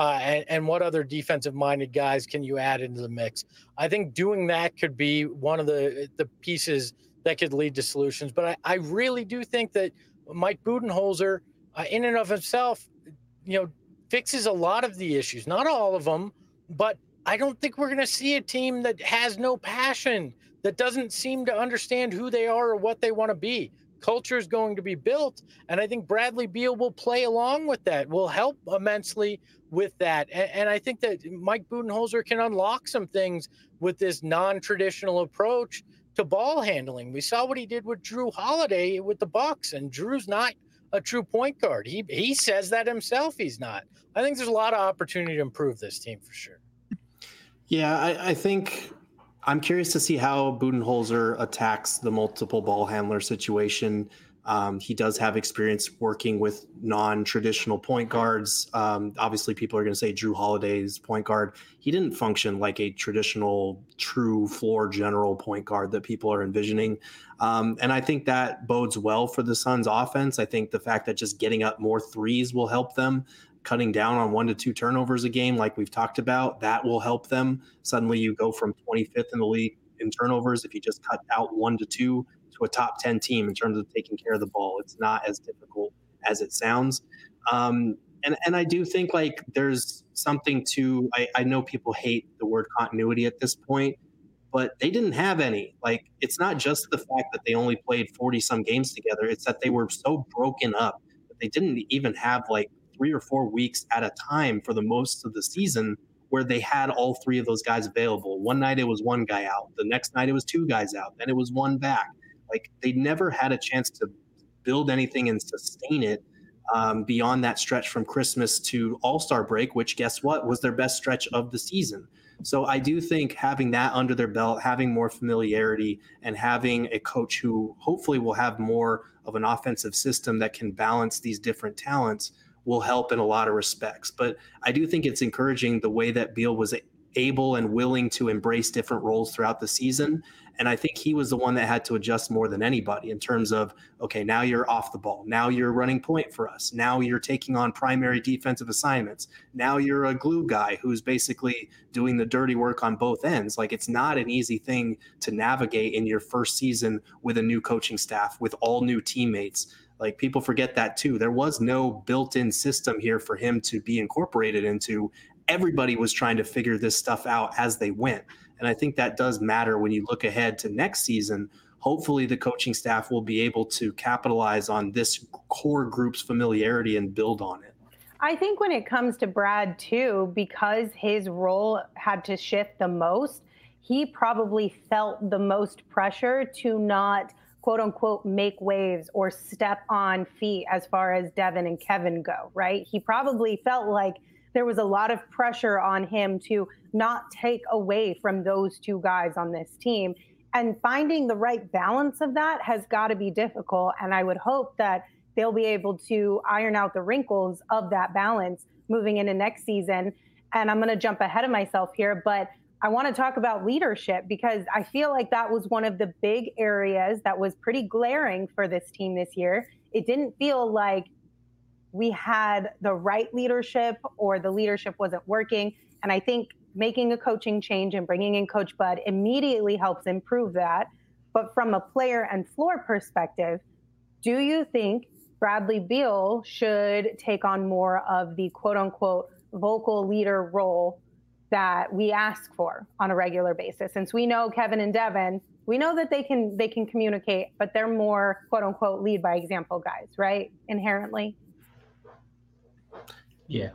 and what other defensive-minded guys can you add into the mix? I think doing that could be one of the pieces that could lead to solutions. But I really do think that Mike Budenholzer, in and of himself, you know, fixes a lot of the issues, not all of them, but I don't think we're going to see a team that has no passion, that doesn't seem to understand who they are or what they want to be. Culture is going to be built, and I think Bradley Beal will play along with that, will help immensely with that. And I think that Mike Budenholzer can unlock some things with this non-traditional approach to ball handling. We saw what he did with Jrue Holiday with the Bucks, and Drew's not a true point guard. He says that himself, he's not. I think there's a lot of opportunity to improve this team for sure. Yeah, I think I'm curious to see how Budenholzer attacks the multiple ball handler situation. He does have experience working with non-traditional point guards. Obviously, people are going to say Jrue Holiday's point guard. He didn't function like a traditional, true floor general point guard that people are envisioning. And I think that bodes well for the Suns' offense. I think the fact that just getting up more threes will help them. Cutting down on 1 to 2 turnovers a game, like we've talked about, that will help them. Suddenly you go from 25th in the league in turnovers if you just cut out 1 to 2 to a top 10 team in terms of taking care of the ball. It's not as difficult as it sounds. And I do think like there's something to, I know people hate the word continuity at this point, but they didn't have any. Like, it's not just the fact that they only played 40 some games together. It's that they were so broken up that they didn't even have like 3 or 4 weeks at a time for the most of the season where they had all 3 of those guys available. One night it was 1 guy out. The next night it was 2 guys out. Then it was 1 back. Like, they never had a chance to build anything and sustain it beyond that stretch from Christmas to All-Star break, which guess what was their best stretch of the season. So I do think having that under their belt, having more familiarity, and having a coach who hopefully will have more of an offensive system that can balance these different talents will help in a lot of respects. But I do think it's encouraging the way that Beal was able and willing to embrace different roles throughout the season. And I think he was the one that had to adjust more than anybody in terms of, okay, now you're off the ball. Now you're running point for us. Now you're taking on primary defensive assignments. Now you're a glue guy who's basically doing the dirty work on both ends. Like, it's not an easy thing to navigate in your first season with a new coaching staff, with all new teammates. Like, people forget that too. There was no built-in system here for him to be incorporated into. Everybody was trying to figure this stuff out as they went. And I think that does matter when you look ahead to next season. Hopefully the coaching staff will be able to capitalize on this core group's familiarity and build on it. I think when it comes to Brad too, because his role had to shift the most, he probably felt the most pressure to not, quote unquote, make waves or step on feet as far as Devin and Kevin go, right? He probably felt like there was a lot of pressure on him to not take away from those two guys on this team. And finding the right balance of that has got to be difficult. And I would hope that they'll be able to iron out the wrinkles of that balance moving into next season. And I'm going to jump ahead of myself here, but I want to talk about leadership, because I feel like that was one of the big areas that was pretty glaring for this team this year. It didn't feel like we had the right leadership or the leadership wasn't working. And I think making a coaching change and bringing in Coach Bud immediately helps improve that. But from a player and floor perspective, do you think Bradley Beal should take on more of the quote unquote vocal leader role that we ask for on a regular basis? Since we know Kevin and Devin, we know that they can communicate, but they're more quote unquote lead by example guys, right? Inherently. Yeah.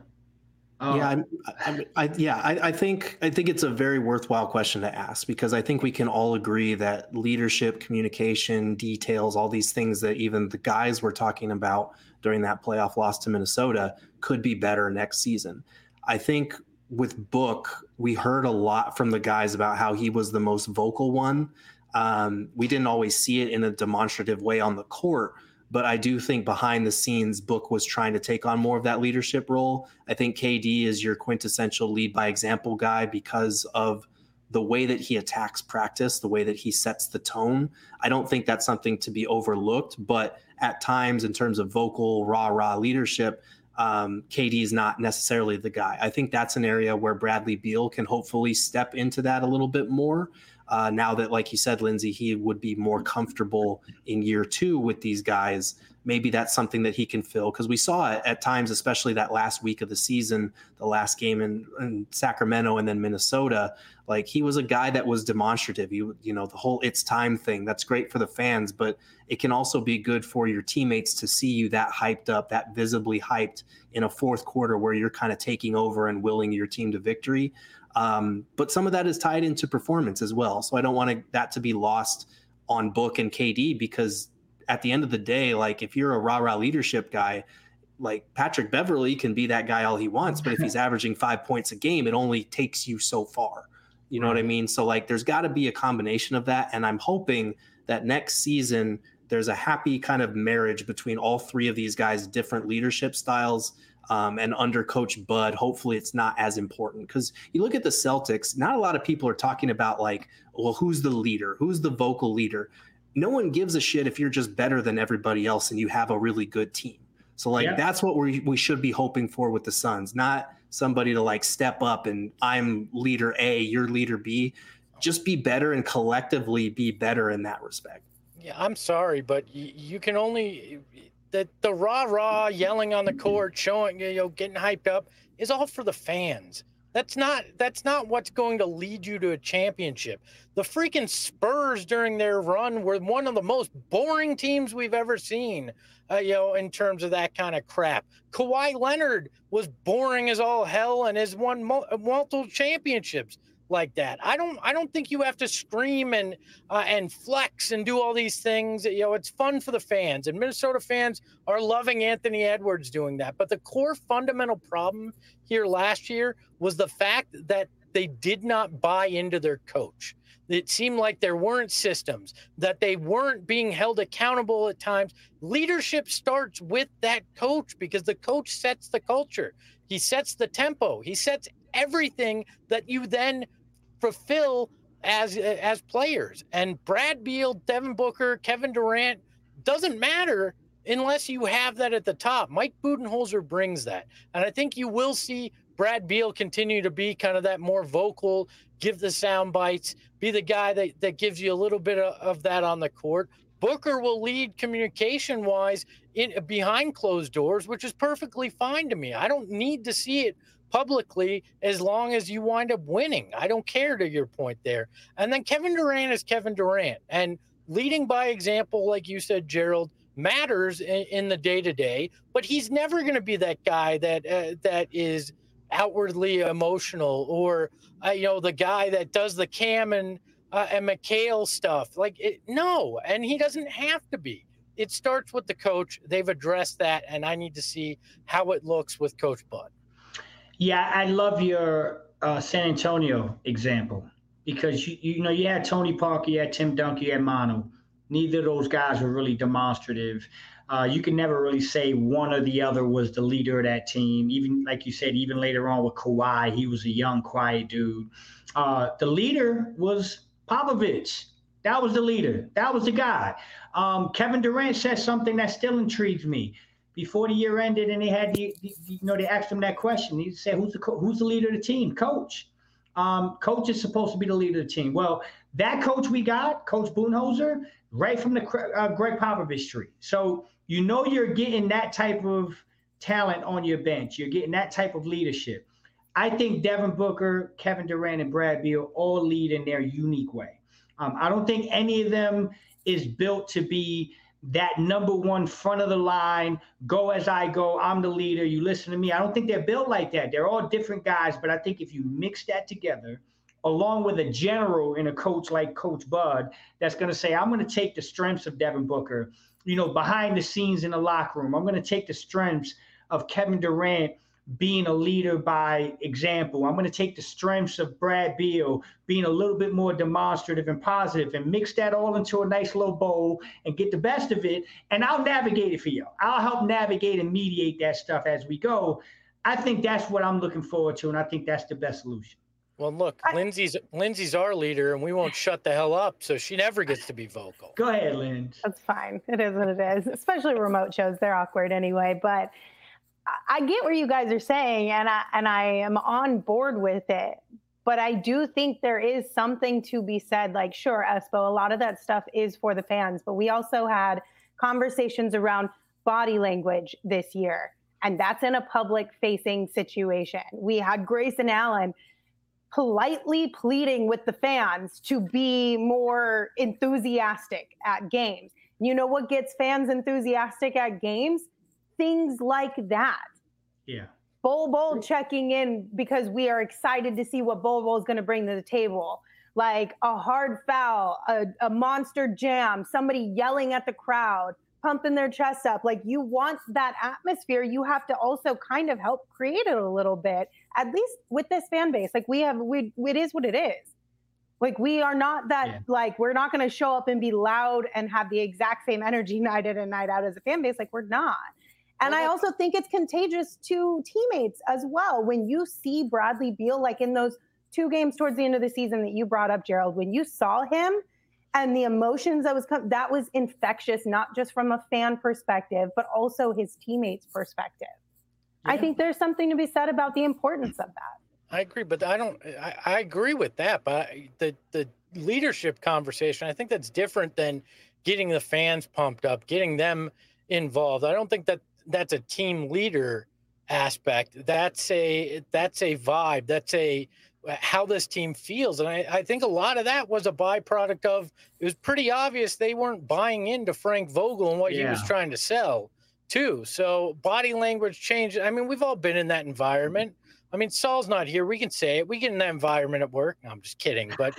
I think it's a very worthwhile question to ask, because I think we can all agree that leadership, communication, details, all these things that even the guys were talking about during that playoff loss to Minnesota could be better next season. I think with Book, we heard a lot from the guys about how he was the most vocal one. We didn't always see it in a demonstrative way on the court, but I do think behind the scenes, Book was trying to take on more of that leadership role. I think KD is your quintessential lead by example guy because of the way that he attacks practice, the way that he sets the tone. I don't think that's something to be overlooked, but at times in terms of vocal, rah-rah leadership, KD is not necessarily the guy. I think that's an area where Bradley Beal can hopefully step into that a little bit more. Now that, like you said, Lindsay, he would be more comfortable in year two with these guys. Maybe that's something that he can fill, because we saw it at times, especially that last week of the season, the last game in Sacramento and then Minnesota. Like, he was a guy that was demonstrative. You know, the whole "it's time" thing, that's great for the fans, but it can also be good for your teammates to see you that hyped up, that visibly hyped in a fourth quarter where you're kind of taking over and willing your team to victory. But some of that is tied into performance as well. So I don't want that to be lost on Book and KD, because at the end of the day, like, if you're a rah-rah leadership guy, like Patrick Beverley can be that guy all he wants, but if he's averaging 5 points a game, it only takes you so far. You know what I mean? So, like, there's got to be a combination of that. And I'm hoping that next season there's a happy kind of marriage between all three of these guys' different leadership styles. And under Coach Bud, hopefully it's not as important, because you look at the Celtics, not a lot of people are talking about, like, well, who's the leader? Who's the vocal leader? No one gives a shit if you're just better than everybody else and you have a really good team. So, like, that's what we should be hoping for with the Suns, not somebody to, like, step up and I'm leader A, you're leader B. Just be better and collectively be better in that respect. Yeah, I'm sorry, but you can only the rah-rah yelling on the court, showing, getting hyped up is all for the fans. That's not what's going to lead you to a championship. The freaking Spurs during their run were one of the most boring teams we've ever seen, in terms of that kind of crap. Kawhi Leonard was boring as all hell and has won multiple championships. like that. I don't think you have to scream and flex and do all these things. You know, it's fun for the fans, and Minnesota fans are loving Anthony Edwards doing that. But the core fundamental problem here last year was the fact that they did not buy into their coach. It seemed like there weren't systems, that they weren't being held accountable at times. Leadership starts with that coach because the coach sets the culture. He sets the tempo. He sets everything that you then fulfill as players. And Brad Beal, Devin Booker, Kevin Durant, doesn't matter unless you have that at the top. Mike Budenholzer brings that. And I think you will see Brad Beal continue to be kind of that more vocal, give the sound bites, be the guy that gives you a little bit of that on the court. Booker will lead communication-wise behind closed doors, which is perfectly fine to me. I don't need to see it publicly as long as you wind up winning. I don't care, to your point there. And then Kevin Durant is Kevin Durant. And leading by example, like you said, Gerald, matters in the day-to-day, but he's never going to be that guy that is outwardly emotional or, the guy that does the Cam and McHale stuff. No, and he doesn't have to be. It starts with the coach. They've addressed that, and I need to see how it looks with Coach Bud. Yeah, I love your San Antonio example because you had Tony Parker, you had Tim Duncan, you had Manu. Neither of those guys were really demonstrative. You can never really say one or the other was the leader of that team. Even like you said, even later on with Kawhi, he was a young, quiet dude. The leader was Popovich. That was the leader. That was the guy. Kevin Durant said something that still intrigues me. Before the year ended, and they had they asked him that question. He said, "Who's the leader of the team?" Coach. Coach is supposed to be the leader of the team. Well, that coach we got, Coach Budenholzer, right from the Greg Popovich tree. So you're getting that type of talent on your bench. You're getting that type of leadership. I think Devin Booker, Kevin Durant, and Brad Beal all lead in their unique way. I don't think any of them is built to be that number one front of the line, go as I go, I'm the leader, you listen to me. I don't think they're built like that. They're all different guys, but I think if you mix that together, along with a general and a coach like Coach Bud, that's going to say, I'm going to take the strengths of Devin Booker, behind the scenes in the locker room. I'm going to take the strengths of Kevin Durant being a leader by example. I'm going to take the strengths of Brad Beal being a little bit more demonstrative and positive and mix that all into a nice little bowl and get the best of it. And I'll navigate it for you. I'll help navigate and mediate that stuff as we go. I think that's what I'm looking forward to, and I think that's the best solution. Well, look, Lindsay's our leader, and we won't shut the hell up, so she never gets to be vocal. Go ahead, Lindsay. That's fine. It is what it is, especially remote shows. They're awkward anyway, but I get what you guys are saying, and I am on board with it. But I do think there is something to be said. Like, sure, Espo, a lot of that stuff is for the fans, but we also had conversations around body language this year, and that's in a public-facing situation. We had Grayson Allen politely pleading with the fans to be more enthusiastic at games. You know what gets fans enthusiastic at games? Things like that. Yeah. Bol checking in because we are excited to see what Bol is going to bring to the table. Like a hard foul, a monster jam, somebody yelling at the crowd, pumping their chest up. Like, you want that atmosphere. You have to also kind of help create it a little bit, at least with this fan base. Like, it is what it is. Like, we are not that, like, we're not going to show up and be loud and have the exact same energy night in and night out as a fan base. Like, we're not. And I also think it's contagious to teammates as well. When you see Bradley Beal, like in those 2 games towards the end of the season that you brought up, Gerald, when you saw him and the emotions that was infectious, not just from a fan perspective, but also his teammates' perspective. Yeah. I think there's something to be said about the importance of that. I agree, but I agree with that. But the leadership conversation, I think that's different than getting the fans pumped up, getting them involved. I don't think that's a team leader aspect. That's a vibe. That's how this team feels. And I think a lot of that was a byproduct of, it was pretty obvious they weren't buying into Frank Vogel and what he was trying to sell too. So body language changed. I mean, we've all been in that environment. I mean, Saul's not here. We can say it. We get in that environment at work. No, I'm just kidding. But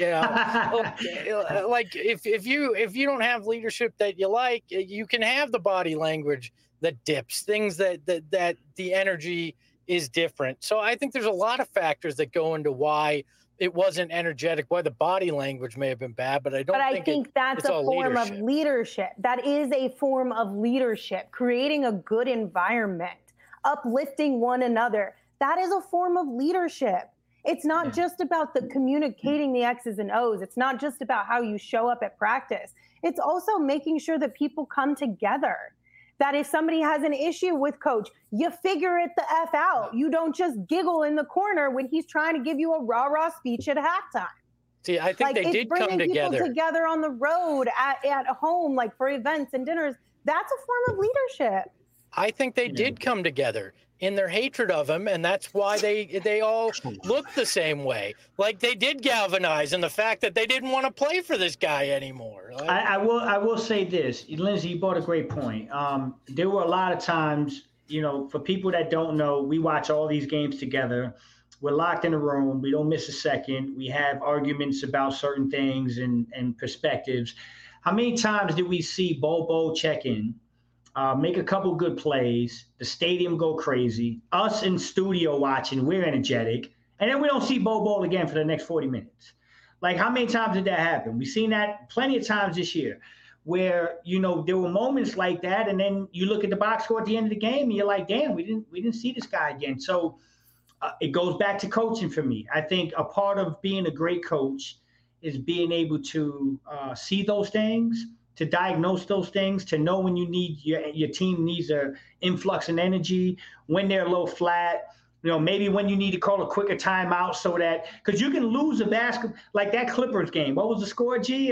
like if you don't have leadership that you like, you can have the body language that dips, things that the energy is different. So I think there's a lot of factors that go into why it wasn't energetic, why the body language may have been bad, but I think that's a form of leadership. That is a form of leadership, creating a good environment, uplifting one another. That is a form of leadership. It's not just about the communicating the X's and O's. It's not just about how you show up at practice. It's also making sure that people come together. That if somebody has an issue with coach, you figure it the F out. You don't just giggle in the corner when he's trying to give you a rah-rah speech at halftime. See, I think they did come together. People together on the road, at home, like for events and dinners. That's a form of leadership. I think they did come together in their hatred of him, and that's why they all look the same way. Like they did galvanize in the fact that they didn't want to play for this guy anymore. Like, I will say this, Lindsay, you brought a great point. There were a lot of times, for people that don't know, we watch all these games together. We're locked in a room. We don't miss a second. We have arguments about certain things and perspectives. How many times did we see Bobo check in? Make a couple good plays, the stadium go crazy, us in studio watching, we're energetic, and then we don't see Bobo again for the next 40 minutes. Like, how many times did that happen? We've seen that plenty of times this year where, there were moments like that, and then you look at the box score at the end of the game, and you're like, damn, we didn't see this guy again. So it goes back to coaching for me. I think a part of being a great coach is being able to see those things, to diagnose those things, to know when you need your team needs an influx in energy, when they're a little flat, maybe when you need to call a quicker timeout so that, because you can lose a basketball, like that Clippers game. What was the score, G?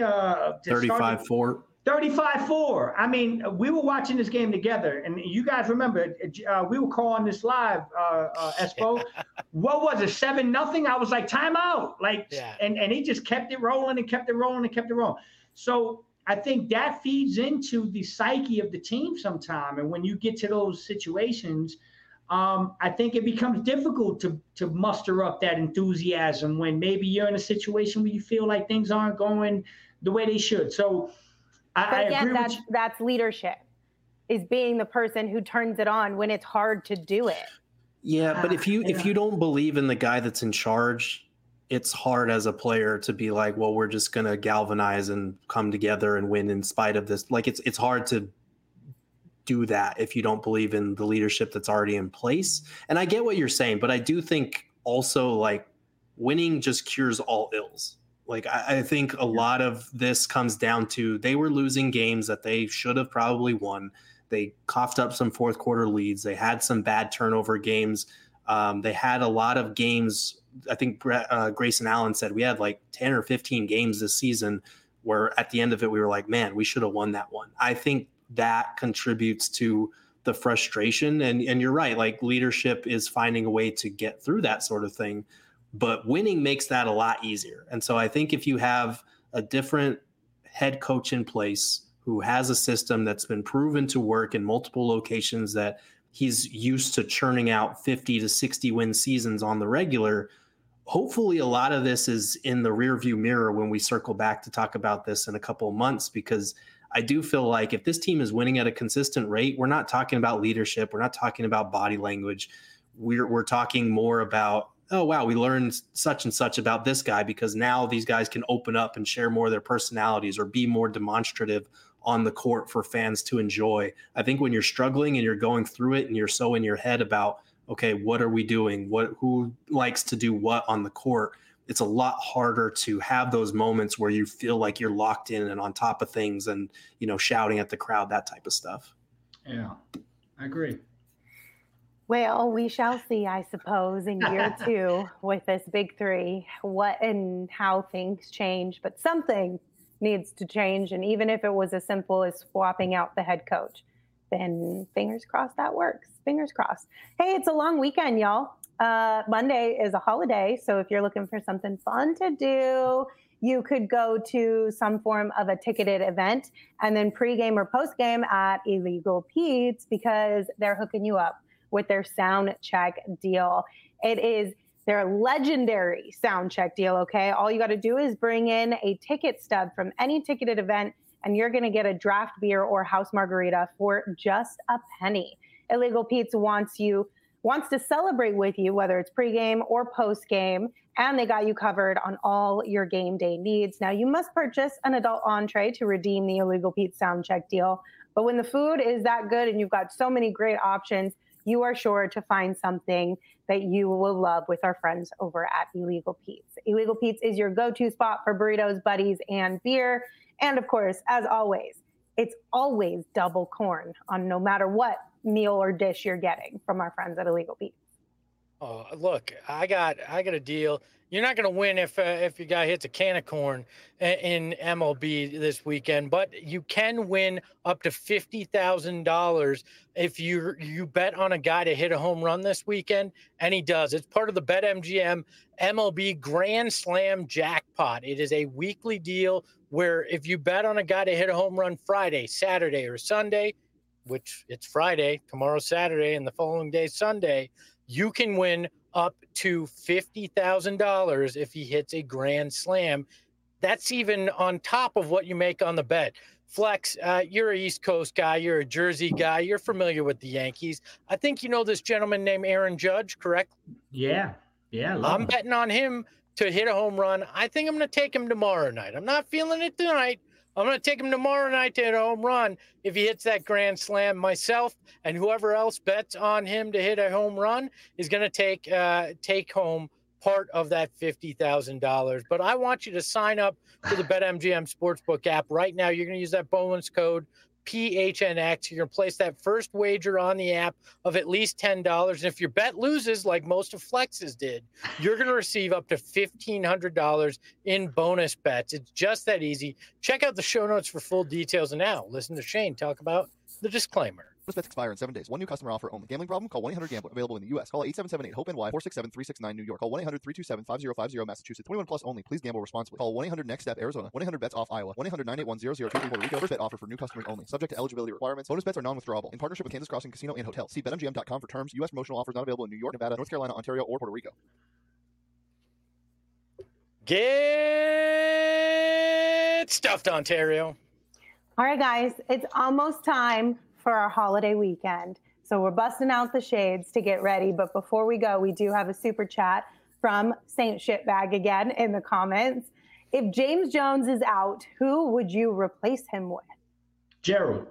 35-4. 35-4. I mean, we were watching this game together, and you guys remember, we were calling this live, Espo. What was it, 7-0? I was like, timeout. And he just kept it rolling and kept it rolling and kept it rolling. So I think that feeds into the psyche of the team sometime. And when you get to those situations, I think it becomes difficult to muster up that enthusiasm when maybe you're in a situation where you feel like things aren't going the way they should. So I agree with you. That's leadership, is being the person who turns it on when it's hard to do it. Yeah, but if you don't believe in the guy that's in charge, it's hard as a player to be like, well, we're just going to galvanize and come together and win in spite of this. Like, it's hard to do that if you don't believe in the leadership that's already in place. And I get what you're saying, but I do think also, like, winning just cures all ills. Like, I think a lot of this comes down to they were losing games that they should have probably won. They coughed up some fourth quarter leads. They had some bad turnover games. They had a lot of games. I think Grayson Allen said we had like 10 or 15 games this season where at the end of it, we were like, man, we should have won that one. I think that contributes to the frustration. And you're right. Like, leadership is finding a way to get through that sort of thing, but winning makes that a lot easier. And so I think if you have a different head coach in place who has a system that's been proven to work in multiple locations, that he's used to churning out 50 to 60 win seasons on the regular, hopefully a lot of this is in the rearview mirror when we circle back to talk about this in a couple of months, because I do feel like if this team is winning at a consistent rate, we're not talking about leadership. We're not talking about body language. We're talking more about, oh, wow, we learned such and such about this guy because now these guys can open up and share more of their personalities or be more demonstrative on the court for fans to enjoy. I think when you're struggling and you're going through it and you're so in your head about, okay, what are we doing? Who likes to do what on the court? It's a lot harder to have those moments where you feel like you're locked in and on top of things and, shouting at the crowd, that type of stuff. Yeah, I agree. Well, we shall see, I suppose, in year 2 with this big 3, what and how things change. But something needs to change. And even if it was as simple as swapping out the head coach, then fingers crossed that works. Fingers crossed. Hey, it's a long weekend, y'all. Monday is a holiday. So if you're looking for something fun to do, you could go to some form of a ticketed event and then pregame or postgame at Illegal Pete's, because they're hooking you up with their sound check deal. It is their legendary sound check deal, okay? All you got to do is bring in a ticket stub from any ticketed event, and you're going to get a draft beer or house margarita for just a penny. Illegal Pete's wants to celebrate with you, whether it's pregame or postgame, and they got you covered on all your game day needs. Now, you must purchase an adult entree to redeem the Illegal Pete's sound check deal, but when the food is that good and you've got so many great options, you are sure to find something that you will love with our friends over at Illegal Pete's. Illegal Pete's is your go-to spot for burritos, buddies, and beer. And of course, as always, it's always double corn on no matter what meal or dish you're getting from our friends at Illegal Pete's. Oh, look, I got a deal. You're not going to win if your guy hits a can of corn in MLB this weekend, but you can win up to $50,000 if you bet on a guy to hit a home run this weekend, and he does. It's part of the BetMGM MLB Grand Slam Jackpot. It is a weekly deal where if you bet on a guy to hit a home run Friday, Saturday, or Sunday, which it's Friday, tomorrow's Saturday, and the following day Sunday, you can win up to $50,000 if he hits a grand slam. That's even on top of what you make on the bet. Flex, you're an East Coast guy. You're a Jersey guy. You're familiar with the Yankees. I think you know this gentleman named Aaron Judge, correct? Yeah. I'm betting on him to hit a home run. I think I'm going to take him tomorrow night. I'm not feeling it tonight. I'm going to take him tomorrow night to hit a home run if he hits that grand slam. Myself and whoever else bets on him to hit a home run is going to take home part of that $50,000. But I want you to sign up for the BetMGM Sportsbook app right now. You're going to use that bonus code PHNX. You're going to place that first wager on the app of at least $10. And if your bet loses, like most of Flex's did, you're going to receive up to $1,500 in bonus bets. It's just that easy. Check out the show notes for full details. And now listen to Shane talk about the disclaimer. Bonus bets expire in 7 days. One new customer offer only. Gambling problem? Call 1-800-GAMBLER. Available in the U.S. Call 877-8-HOPE-NY, 467-369 New York. Call 1-800-327-5050 Massachusetts. 21 plus only. Please gamble responsibly. Call 1-800-NEXT-STEP Arizona. 1-800-BETS-OFF Iowa. 1-800-981-0023 Puerto Rico. First bet offer for new customers only. Subject to eligibility requirements. Bonus bets are non-withdrawable. In partnership with Kansas Crossing Casino and Hotel. See BetMGM.com for terms. U.S. promotional offers not available in New York, Nevada, North Carolina, Ontario, or Puerto Rico. Get stuffed, Ontario. All right, guys, it's almost time for our holiday weekend. So we're busting out the shades to get ready. But before we go, we do have a super chat from Saint Shitbag again in the comments. If James Jones is out, who would you replace him with? Gerald.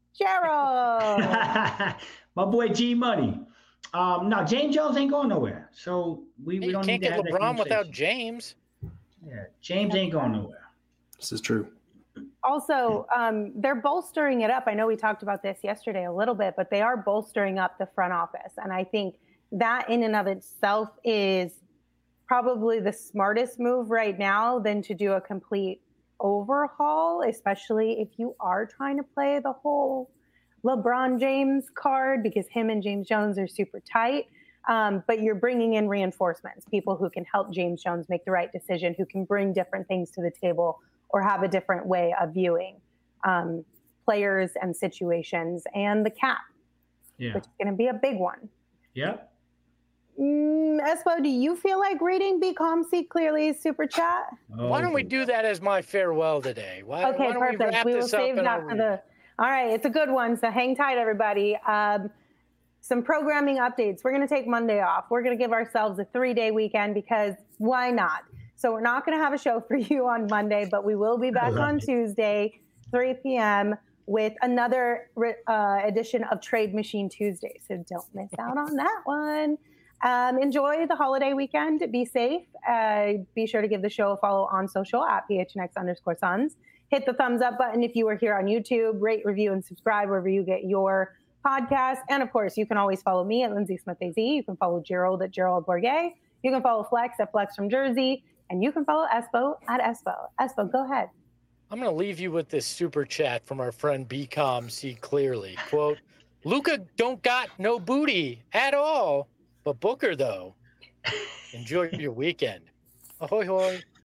My boy G Money. No, James Jones ain't going nowhere. So we don't need to have that LeBron without James. Yeah, James ain't going nowhere. This is true. Also, they're bolstering it up. I know we talked about this yesterday a little bit, but they are bolstering up the front office. And I think that in and of itself is probably the smartest move right now than to do a complete overhaul, especially if you are trying to play the whole LeBron James card, because him and James Jones are super tight. But you're bringing in reinforcements, people who can help James Jones make the right decision, who can bring different things to the table or have a different way of viewing players and situations, and the cap, which is going to be a big one. Yep. Espo, do you feel like reading B. Calm, See Clearly super chat? Why don't we do that as my farewell today? Why Perfect. We will save that for the... All right, it's a good one, so hang tight, everybody. Some programming updates. We're going to take Monday off. We're going to give ourselves a 3-day weekend because why not? So we're not going to have a show for you on Monday, but we will be back on Tuesday, 3 p.m. with another edition of Trade Machine Tuesday. So don't miss out on that one. Enjoy the holiday weekend. Be safe. Be sure to give the show a follow on social at PHNX_Suns. Hit the thumbs up button if you are here on YouTube. Rate, review, and subscribe wherever you get your podcast. And of course, you can always follow me at Lindsay Smith AZ. You can follow Gerald at Gerald Bourget. You can follow Flex at Flex from Jersey. And you can follow Espo at Espo. Espo, go ahead. I'm going to leave you with this super chat from our friend B. Calm, See Clearly. Quote, Luka don't got no booty at all, but Booker, though. Enjoy your weekend. Ahoy, hoy.